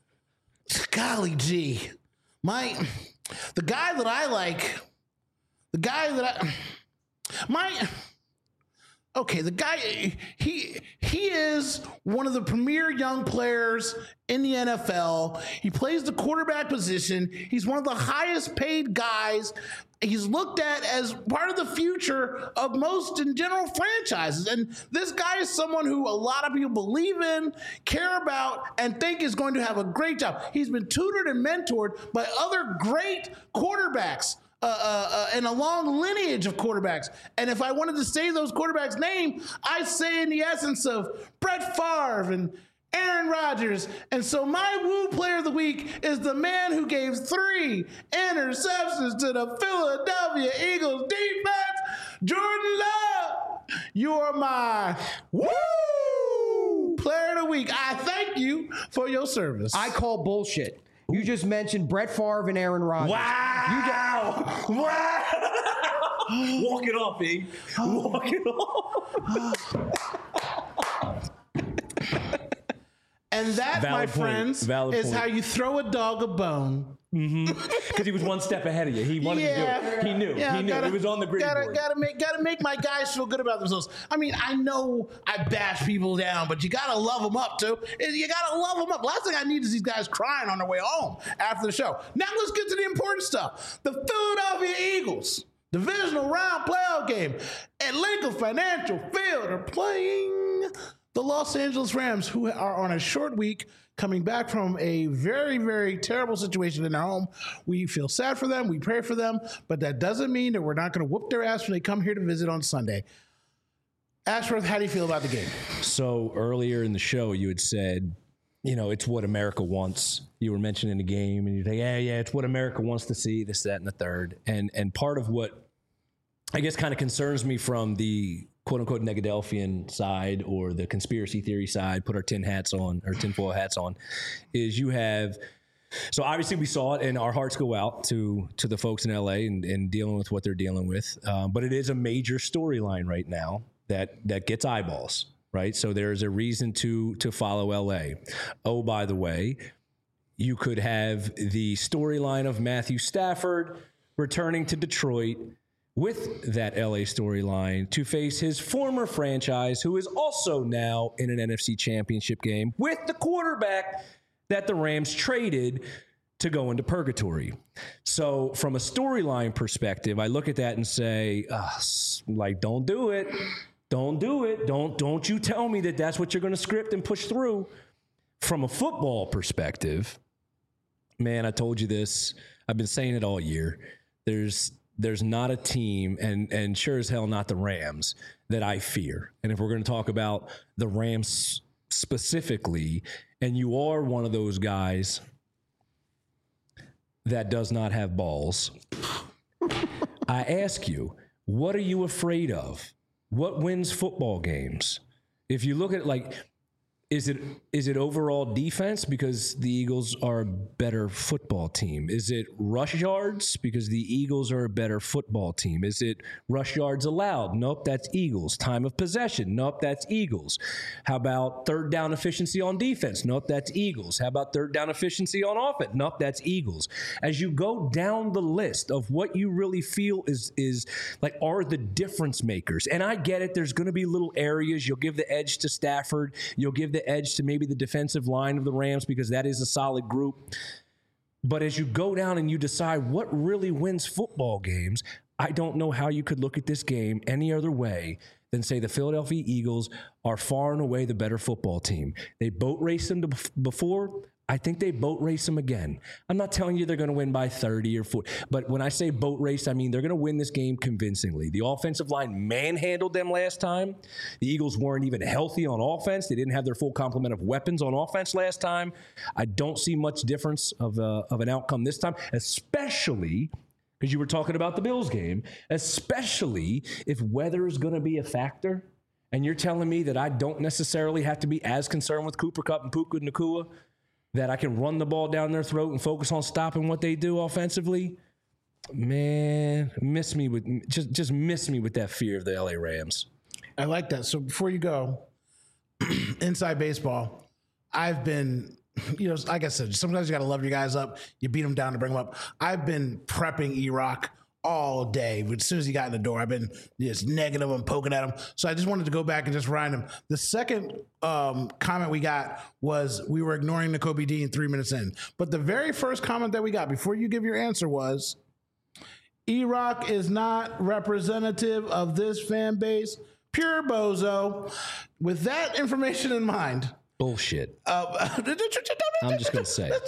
golly gee, my the guy that I like, the guy that I my okay, the guy, he he is one of the premier young players in the N F L. He plays the quarterback position. He's one of the highest paid guys. He's looked at as part of the future of most in general franchises. And this guy is someone who a lot of people believe in, care about, and think is going to have a great job. He's been tutored and mentored by other great quarterbacks. Uh, uh, uh, and a long lineage of quarterbacks. And if I wanted to say those quarterbacks' name, I'd say in the essence of Brett Favre and Aaron Rodgers. And so my woo player of the week is the man who gave three interceptions to the Philadelphia Eagles defense, Jordan Love. You are my woo player of the week. I thank you for your service. I call bullshit. You just mentioned Brett Favre and Aaron Rodgers. Wow! You just, wow! Walk it off, E. Walk it off. And that, Valid my point. friends, Valid is point. how you throw a dog a bone. Because mm-hmm. he was one step ahead of you. He wanted yeah, to do it. He knew. Yeah, he knew. gotta, It was on the grid gotta, board. Gotta make, gotta make my guys feel good about themselves. I mean, I know I bash people down, but you gotta love them up too. You gotta love them up. Last thing I need is these guys crying on their way home after the show. Now let's get to the important stuff. The Philadelphia Eagles, divisional round playoff game at Lincoln Financial Field, are playing the Los Angeles Rams, who are on a short week, coming back from a very, very terrible situation in their home. We feel sad for them. We pray for them. But that doesn't mean that we're not going to whoop their ass when they come here to visit on Sunday. Ashworth, how do you feel about the game? So earlier in the show, you had said, you know, it's what America wants. You were mentioning the game, and you're like, yeah, yeah, it's what America wants to see, this, that, and the third. And, and part of what I guess kind of concerns me from the quote-unquote Negadelphian side or the conspiracy theory side, put our tin hats on, or tinfoil hats on, is you have – so obviously we saw it, and our hearts go out to to the folks in L A and, and dealing with what they're dealing with. Um, but it is a major storyline right now that that gets eyeballs, right? So there's a reason to to follow L A. Oh, by the way, you could have the storyline of Matthew Stafford returning to Detroit with that L A storyline to face his former franchise, who is also now in an N F C championship game with the quarterback that the Rams traded to go into purgatory. So from a storyline perspective, I look at that and say, uh, like, don't do it. Don't do it. Don't, don't you tell me that that's what you're going to script and push through. From a football perspective, man, I told you this. I've been saying it all year. There's There's not a team, and and sure as hell not the Rams, that I fear. And if we're going to talk about the Rams specifically, and you are one of those guys that does not have balls, I ask you, what are you afraid of? What wins football games? If you look at, like, Is it is it overall defense because the Eagles are a better football team? Is it rush yards because the Eagles are a better football team? Is it rush yards allowed? Nope, that's Eagles. Time of possession? Nope, that's Eagles. How about third down efficiency on defense? Nope, that's Eagles. How about third down efficiency on offense? Nope, that's Eagles. As you go down the list of what you really feel is is like are the difference makers, and I get it, there's going to be little areas. You'll give the edge to Stafford. You'll give the edge to maybe the defensive line of the Rams because that is a solid group. But as you go down and you decide what really wins football games, I don't know how you could look at this game any other way than say the Philadelphia Eagles are far and away the better football team. They boat raced them to before. I think they boat race them again. I'm not telling you they're going to win by thirty or forty, but when I say boat race, I mean they're going to win this game convincingly. The offensive line manhandled them last time. The Eagles weren't even healthy on offense. They didn't have their full complement of weapons on offense last time. I don't see much difference of, uh, of an outcome this time, especially because you were talking about the Bills game, especially if weather is going to be a factor. And you're telling me that I don't necessarily have to be as concerned with Cooper Kupp and Puka Nacua, that I can run the ball down their throat and focus on stopping what they do offensively. Man, miss me with just just miss me with that fear of the L A Rams. I like that. So before you go, inside baseball, I've been, you know, like I said, sometimes you got to love your guys up. You beat them down to bring them up. I've been prepping E-Rock all day. But as soon as he got in the door, I've been just negative and poking at him. So I just wanted to go back and just remind him. The second um, comment we got was we were ignoring Nakobe Dean three minutes in. But the very first comment that we got before you give your answer was, E-Rock is not representative of this fan base. Pure bozo. With that information in mind. Bullshit. Uh, I'm just going to say.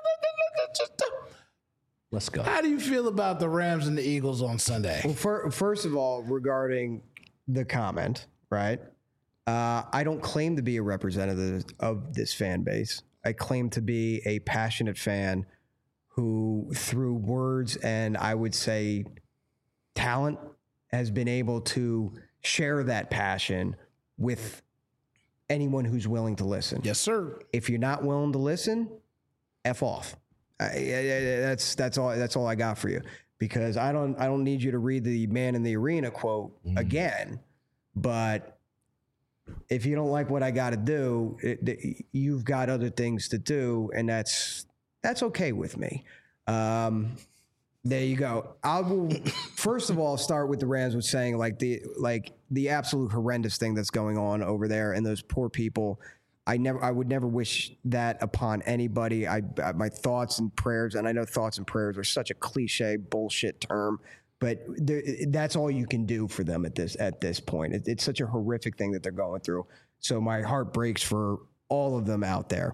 Let's go. How do you feel about the Rams and the Eagles on Sunday? Well, for, first of all, regarding the comment, right? Uh, I don't claim to be a representative of this fan base. I claim to be a passionate fan who, through words and I would say talent, has been able to share that passion with anyone who's willing to listen. Yes, sir. If you're not willing to listen, F off. I, I, I, that's that's all. That's all I got for you, because I don't I don't need you to read the Man in the Arena quote mm. again. But if you don't like what I got to do, it, you've got other things to do, and that's that's okay with me. Um, there you go. I will first of all start with the Rams with saying like the like the absolute horrendous thing that's going on over there, and those poor people. I never, I would never wish that upon anybody. I, I, my thoughts and prayers, and I know thoughts and prayers are such a cliche bullshit term, but that's all you can do for them at this at this point. It, it's such a horrific thing that they're going through. So my heart breaks for all of them out there.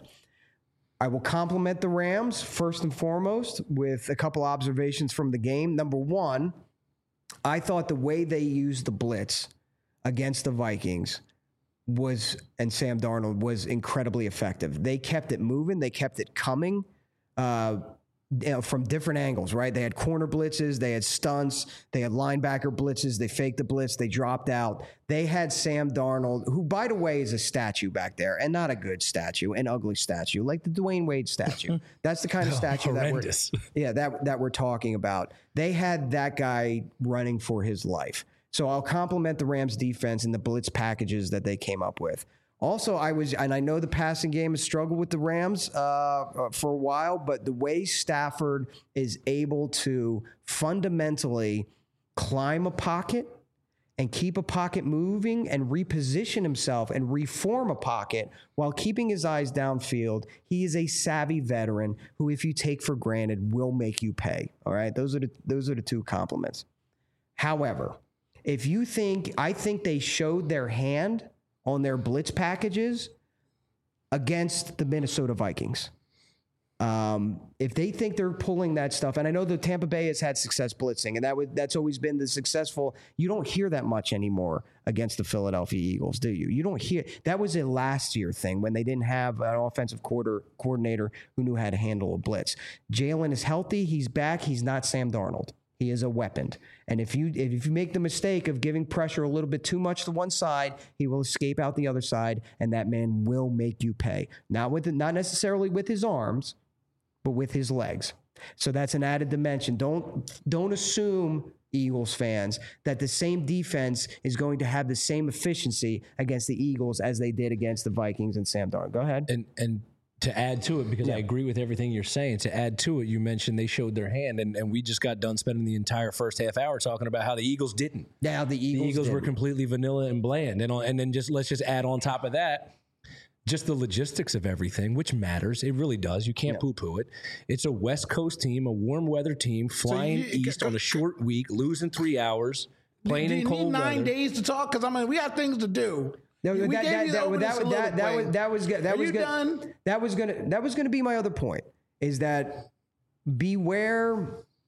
I will compliment the Rams first and foremost with a couple observations from the game. Number one, I thought the way they used the blitz against the Vikings was, and Sam Darnold was incredibly effective. They kept it moving. They kept it coming uh, you know, from different angles, right? They had corner blitzes. They had stunts. They had linebacker blitzes. They faked the blitz. They dropped out. They had Sam Darnold, who, by the way, is a statue back there, and not a good statue, an ugly statue, like the Dwayne Wade statue. That's the kind of statue that we're, yeah, that, that we're talking about. They had that guy running for his life. So I'll compliment the Rams defense and the blitz packages that they came up with. Also, I was, and I know the passing game has struggled with the Rams uh, for a while, but the way Stafford is able to fundamentally climb a pocket and keep a pocket moving and reposition himself and reform a pocket while keeping his eyes downfield, he is a savvy veteran who, if you take for granted, will make you pay. All right, those are the those are the two compliments. However, if you think, I think they showed their hand on their blitz packages against the Minnesota Vikings. Um, if they think they're pulling that stuff, and I know the Tampa Bay has had success blitzing, and that would, that's always been the successful, you don't hear that much anymore against the Philadelphia Eagles, do you? You don't hear, that was a last year thing when they didn't have an offensive quarter, coordinator who knew how to handle a blitz. Jalen is healthy, he's back, he's not Sam Darnold. He is a weapon. And if you if you make the mistake of giving pressure a little bit too much to one side, he will escape out the other side, and that man will make you pay. Not with not necessarily with his arms, but with his legs. So that's an added dimension. Don't don't assume, Eagles fans, that the same defense is going to have the same efficiency against the Eagles as they did against the Vikings and Sam Darnold. Go ahead. And and to add to it, because yeah. I agree with everything you're saying, to add to it, you mentioned they showed their hand, and, and we just got done spending the entire first half hour talking about how the Eagles didn't. Yeah, the Eagles, the Eagles didn't. were completely vanilla and bland. And, and then just let's just add on top of that, just the logistics of everything, which matters. It really does. You can't yeah. poo-poo it. It's a West Coast team, a warm weather team, flying so you, east on a short week, losing three hours, playing do, do in cold weather. You need nine days to talk? Because, I mean, we got things to do. No, that, that, that, that, that, that was that was that Are was you gonna, done? that was gonna that was gonna be my other point, is that beware,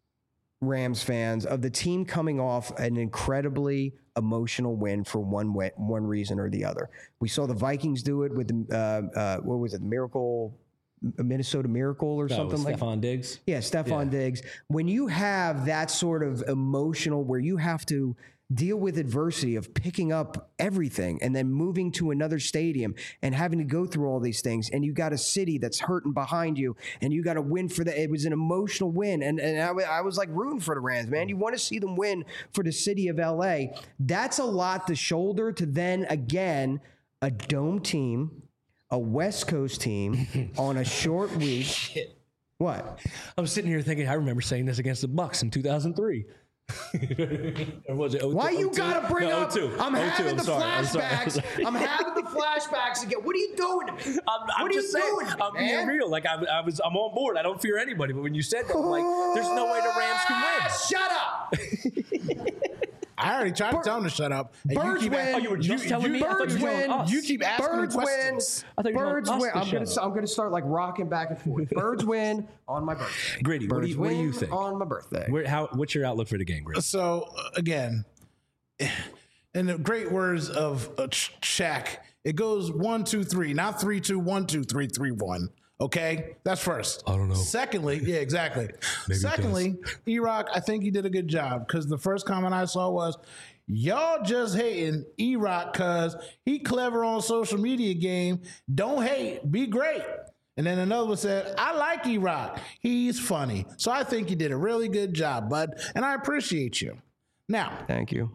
Rams fans, of the team coming off an incredibly emotional win for one way, one reason or the other. We saw the Vikings do it with the uh, uh, what was it, Miracle, Minnesota Miracle or no, something like Stephon Diggs. Yeah, Stephon yeah. Diggs. When you have that sort of emotional, where you have to deal with adversity of picking up everything and then moving to another stadium and having to go through all these things, and you got a city that's hurting behind you, and you got to win for that. It was an emotional win, and and I, I was like rooting for the Rams, man. You want to see them win for the city of L A. That's a lot to shoulder to then again a dome team, a West Coast team on a short week. Shit. What? I'm sitting here thinking, I remember saying this against the Bucs in two thousand three. Or was it oh two? Why you oh two? gotta bring No, up? oh two. I'm oh two. having I'm the sorry. I'm sorry. flashbacks. I'm, having the flashbacks again. What are you doing to me? I'm, I'm what are just you saying, doing to me, I'm being man? real. Like I, I was, I'm on board. I don't fear anybody. But when you said that, I'm like, there's no way the Rams can win. Shut up. I already tried to tell him to shut up. And Birds you keep win. a- Oh, you were just telling me? I thought Birds you were win. telling us. You keep asking him Birds win. questions. I thought you were Birds telling us win. to I'm gonna. shut up. I'm gonna start like rocking back and forth. Birds win on my birthday. Gritty, what do Birds you, what do you win think? on my birthday? Where, how, what's your outlook for the game, Gritty? So uh, again, in the great words of uh, Ch- Shaq, it goes one, two, three, not three, two, one, two, three, three, one. Okay, that's first. I don't know. Secondly, yeah, exactly. Maybe it Secondly, E-Rock, I think he did a good job because the first comment I saw was, y'all just hating E-Rock because he clever on social media game. Don't hate, be great. And then another one said, I like E-Rock. He's funny. So I think you did a really good job, bud. And I appreciate you. Now, Thank you.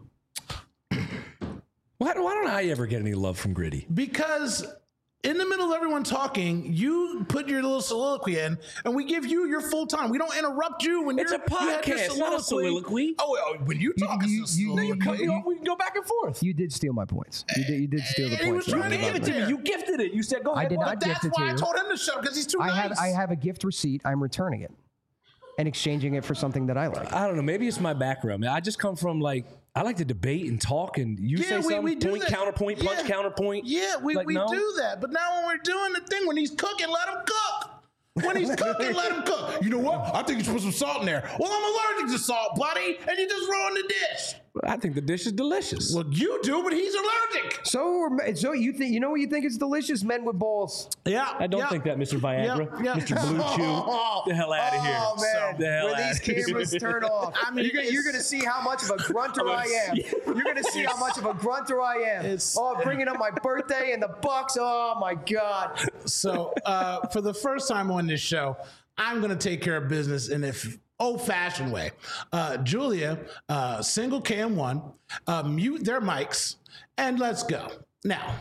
Why, why don't I ever get any love from Gritty? because in the middle of everyone talking, you put your little soliloquy in, and we give you your full time. We don't interrupt you when It's you're a you have your podcast, not a soliloquy. Oh, well, when you talk, you- it's a you- You cut soliloquy. me off. We can go back and forth. You did steal my points. You did. You did steal the He points. was trying to give it to You, you gifted it. You said, go I ahead. did Mark. not But that's gift it to why I you. told him to shut because he's too I nice. have. I have a gift receipt. I'm returning it and exchanging it for something that I like. I don't know. Maybe it's my background. Man. I just come from like I like to debate and talk, and you Yeah, say we- something, we do point, that. counterpoint, punch, Yeah. counterpoint. Yeah, we, Like, we no. do that. But now when we're doing the thing, when he's cooking, let him cook. When he's cooking, let him cook. You know what? I think you should put some salt in there. Well, I'm allergic to salt, buddy, and you just ruined the dish. I think the dish is delicious. Well, you do, but he's allergic. So, so you think you know what you think is delicious? Men with balls. Yeah, I don't yeah. think that, Mister Viagra, Yeah, yeah. Mister Blue Chew, the hell out of here. Oh man! the hell when outta these here. cameras turn off, I mean, you're, gonna, you're it's- gonna see how much of a grunter I am. You're gonna see how much of a grunter I am. It's- Oh, bringing up my birthday and the Bucks. Oh my God! So, uh, for the first time on this show, I'm going to take care of business in an old-fashioned way. Uh, Julia, uh, single cam one, uh, mute their mics, and let's go. Now,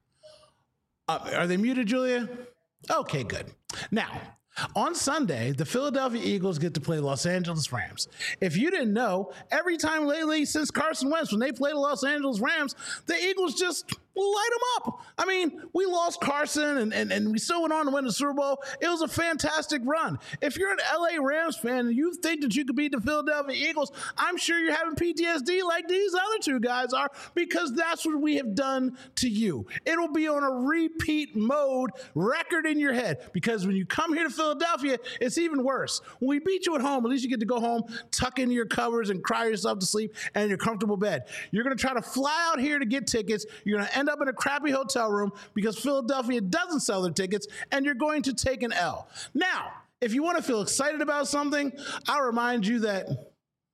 uh, are they muted, Julia? Okay, good. Now, on Sunday, the Philadelphia Eagles get to play Los Angeles Rams. If you didn't know, every time lately since Carson Wentz, when they play the Los Angeles Rams, the Eagles just light them up. I mean, we lost Carson and, and, and we still went on to win the Super Bowl. It was a fantastic run. If you're an L A Rams fan and you think that you could beat the Philadelphia Eagles, I'm sure you're having P T S D like these other two guys are, because that's what we have done to you. It'll be on a repeat mode record in your head, because when you come here to Philadelphia, it's even worse. When we beat you at home, at least you get to go home, tuck into your covers and cry yourself to sleep and in your comfortable bed. You're going to try to fly out here to get tickets. You're going to end up in a crappy hotel room because Philadelphia doesn't sell their tickets, and you're going to take an L. Now, if you want to feel excited about something, I'll remind you that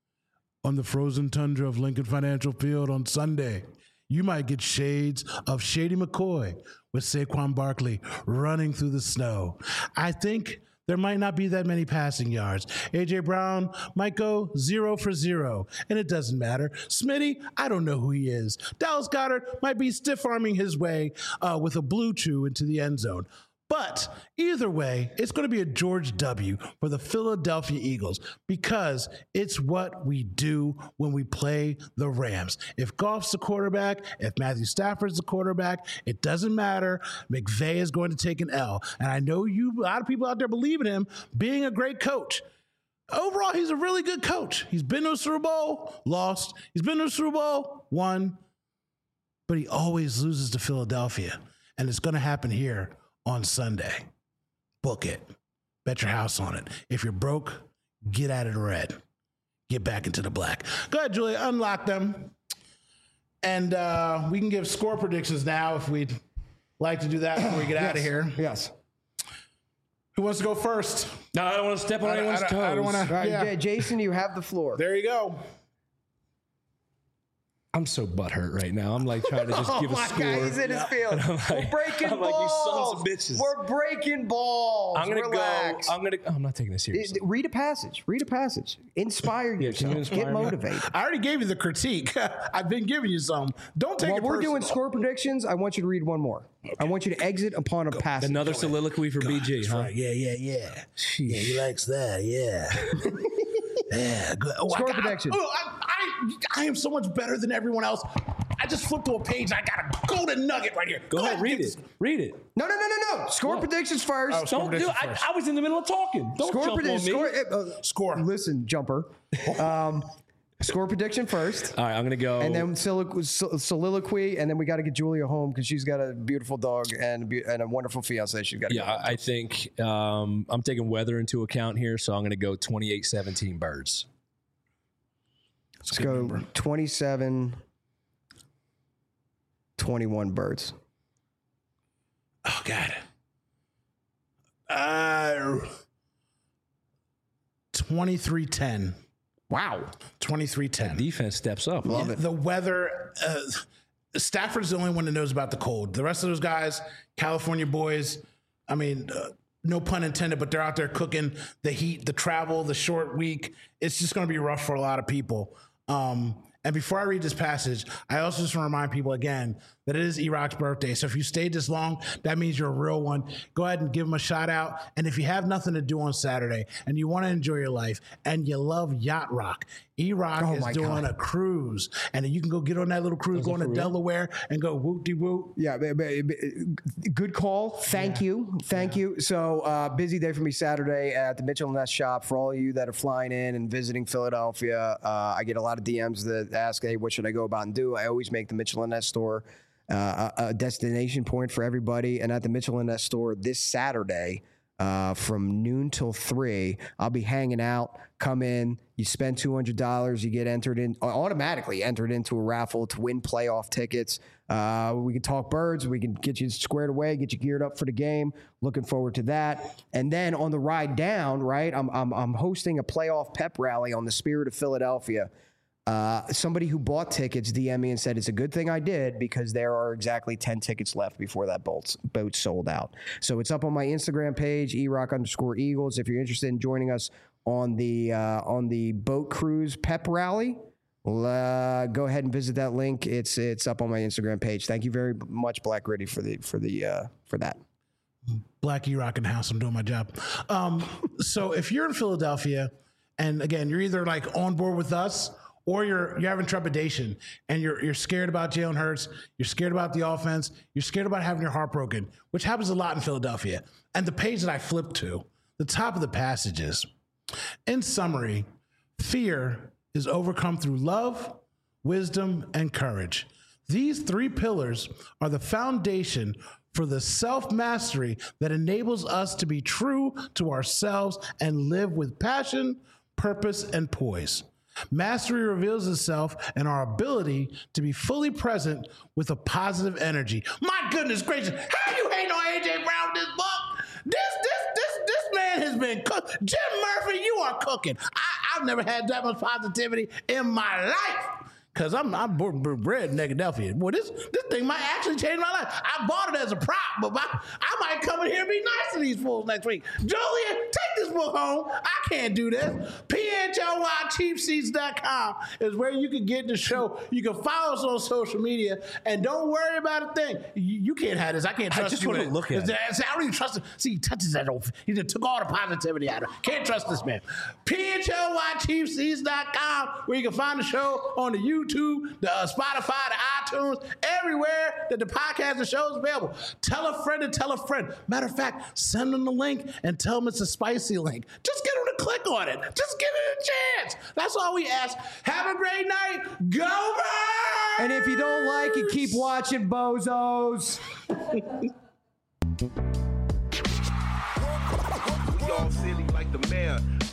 on the frozen tundra of Lincoln Financial Field on Sunday, you might get shades of Shady McCoy with Saquon Barkley running through the snow. I think there might not be that many passing yards. A J Brown might go zero for zero, and it doesn't matter. Smitty, I don't know who he is. Dallas Goedert might be stiff-arming his way uh, with a blue chew into the end zone. But either way, it's going to be a George W. for the Philadelphia Eagles, because it's what we do when we play the Rams. If Goff's the quarterback, if Matthew Stafford's the quarterback, it doesn't matter. McVay is going to take an L. And I know you, a lot of people out there believe in him being a great coach. Overall, he's a really good coach. He's been to a Super Bowl, lost. He's been to a Super Bowl, won. But he always loses to Philadelphia. And it's going to happen here on Sunday. Book it. Bet your house on it. If you're broke, get out of the red. Get back into the black. Go ahead, Julia. Unlock them. And uh, we can give score predictions now if we'd like to do that before we get out of here. Yes. Who wants to go first? No, I don't want to step on I- I anyone's don't- toes. I don't wanna- All right, Yeah. J- Jason, you have the floor. There you go. I'm so butthurt right now. I'm like trying to just Oh give a my score. God, he's in his field. like- We're breaking I'm like, you balls. sons of bitches. We're breaking balls. I'm gonna Relax. go. I'm gonna. I'm not taking this It- seriously. Read a passage. Read a passage. Inspire Yeah, can yourself. you inspire Get me? motivated. I already gave you the critique. I've been giving you some. Don't take While it we're personal. doing score predictions, I want you to read one more. I want you to exit upon a passage. Another soliloquy for B G, huh? Right. Yeah, yeah, yeah. Yeah, he likes that. Yeah. Yeah, good. Oh, Score I got, prediction. Oh, I, I, I am so much better than everyone else. I just flipped to a page. I got a golden nugget right here. Go, Go ahead, read this. it. Read it. No, no, no, no, no. Score What? predictions first. Oh, score Don't do. predictions I, first. I was in the middle of talking. Don't Score jump prediction. on me. Score. Uh, Score. Listen, jumper. Um, score prediction first. All right, I'm gonna go. And then soliloquy, soliloquy, and then we got to get Julia home because she's got a beautiful dog and a, be- and a wonderful fiance. She's got. yeah, I, I think um, I'm taking weather into account here, so I'm gonna go twenty-eight seventeen Birds. Let's go twenty-seven twenty-one Birds. Oh, God. Uh, twenty-three ten. Wow. twenty-three ten. Defense steps up. Love it. The weather, uh, Stafford's the only one that knows about the cold. The rest of those guys, California boys, I mean, uh, no pun intended, but they're out there cooking the heat, the travel, the short week. It's just going to be rough for a lot of people. Um, and before I read this passage, I also just want to remind people again that it is E-Rock's birthday. So if you stayed this long, that means you're a real one. Go ahead and give him a shout out. And if you have nothing to do on Saturday and you want to enjoy your life and you love Yacht Rock, E-Rock Oh is my doing God. a cruise. And you can go get on that little cruise, going to Delaware and go whoop-de-whoop. Yeah, b- b- b- good call. Thank you. Thank you. So, uh, busy day for me Saturday at the Mitchell and Ness shop. For all of you that are flying in and visiting Philadelphia, uh, I get a lot of D Ms that ask, hey, what should I go about and do? I always make the Mitchell and Ness store uh, a, a destination point for everybody. And at the Mitchell and Ness store this Saturday, uh, from noon till three, I'll be hanging out. Come in, you spend two hundred dollars, you get entered in, automatically entered into a raffle to win playoff tickets. Uh, we can talk birds. We can get you squared away, get you geared up for the game. Looking forward to that. And then on the ride down, right, I'm I'm, I'm hosting a playoff pep rally on the Spirit of Philadelphia. Uh, somebody who bought tickets D M'd me and said, it's a good thing I did because there are exactly ten tickets left before that boat, boat sold out. So it's up on my Instagram page, E-Rock underscore Eagles. If you're interested in joining us on the uh, on the boat cruise pep rally, uh, go ahead and visit that link. It's it's up on my Instagram page. Thank you very much, Black Gritty, for the for the uh, for that. Black E-Rock in the house. I'm doing my job. Um, so if you're in Philadelphia, and again, you're either like on board with us or you're you're having trepidation and you're you're scared about Jalen Hurts, you're scared about the offense, you're scared about having your heart broken, which happens a lot in Philadelphia. And the page that I flipped to, the top of the passage is, in summary, fear is overcome through love, wisdom, and courage. These three pillars are the foundation for the self-mastery that enables us to be true to ourselves and live with passion, purpose, and poise. Mastery reveals itself in our ability to be fully present with a positive energy. My goodness gracious, how you hating on A J Brown with this book? This, this, this, this man has been cooked. Jim Murphy, you are cooking. I, I've never had that much positivity in my life. Cause I'm I'm born and bred in Philadelphia. Boy, this this thing might actually change my life. I bought it as a prop, but my, I might come in here and be nice to these fools next week. Julia, take this book home. I can't do this. P H L Y cheap seats dot com is where you can get the show. You can follow us on social media, and don't worry about a thing. You, you can't have this. I can't trust just you. wanna with it. look at it. I don't even trust him. See, he touches that old. He just took all the positivity out of it. Can't trust this man. P H L Y cheap seats dot com, where you can find the show on the YouTube. The uh, Spotify, the iTunes, everywhere that the podcast and show is available. Tell a friend to tell a friend. Matter of fact, send them the link and tell them it's a spicy link. Just get them to click on it. Just give it a chance. That's all we ask. Have a great night. Go Birds! And if you don't like it, keep watching, bozos. We all silly like the mayor.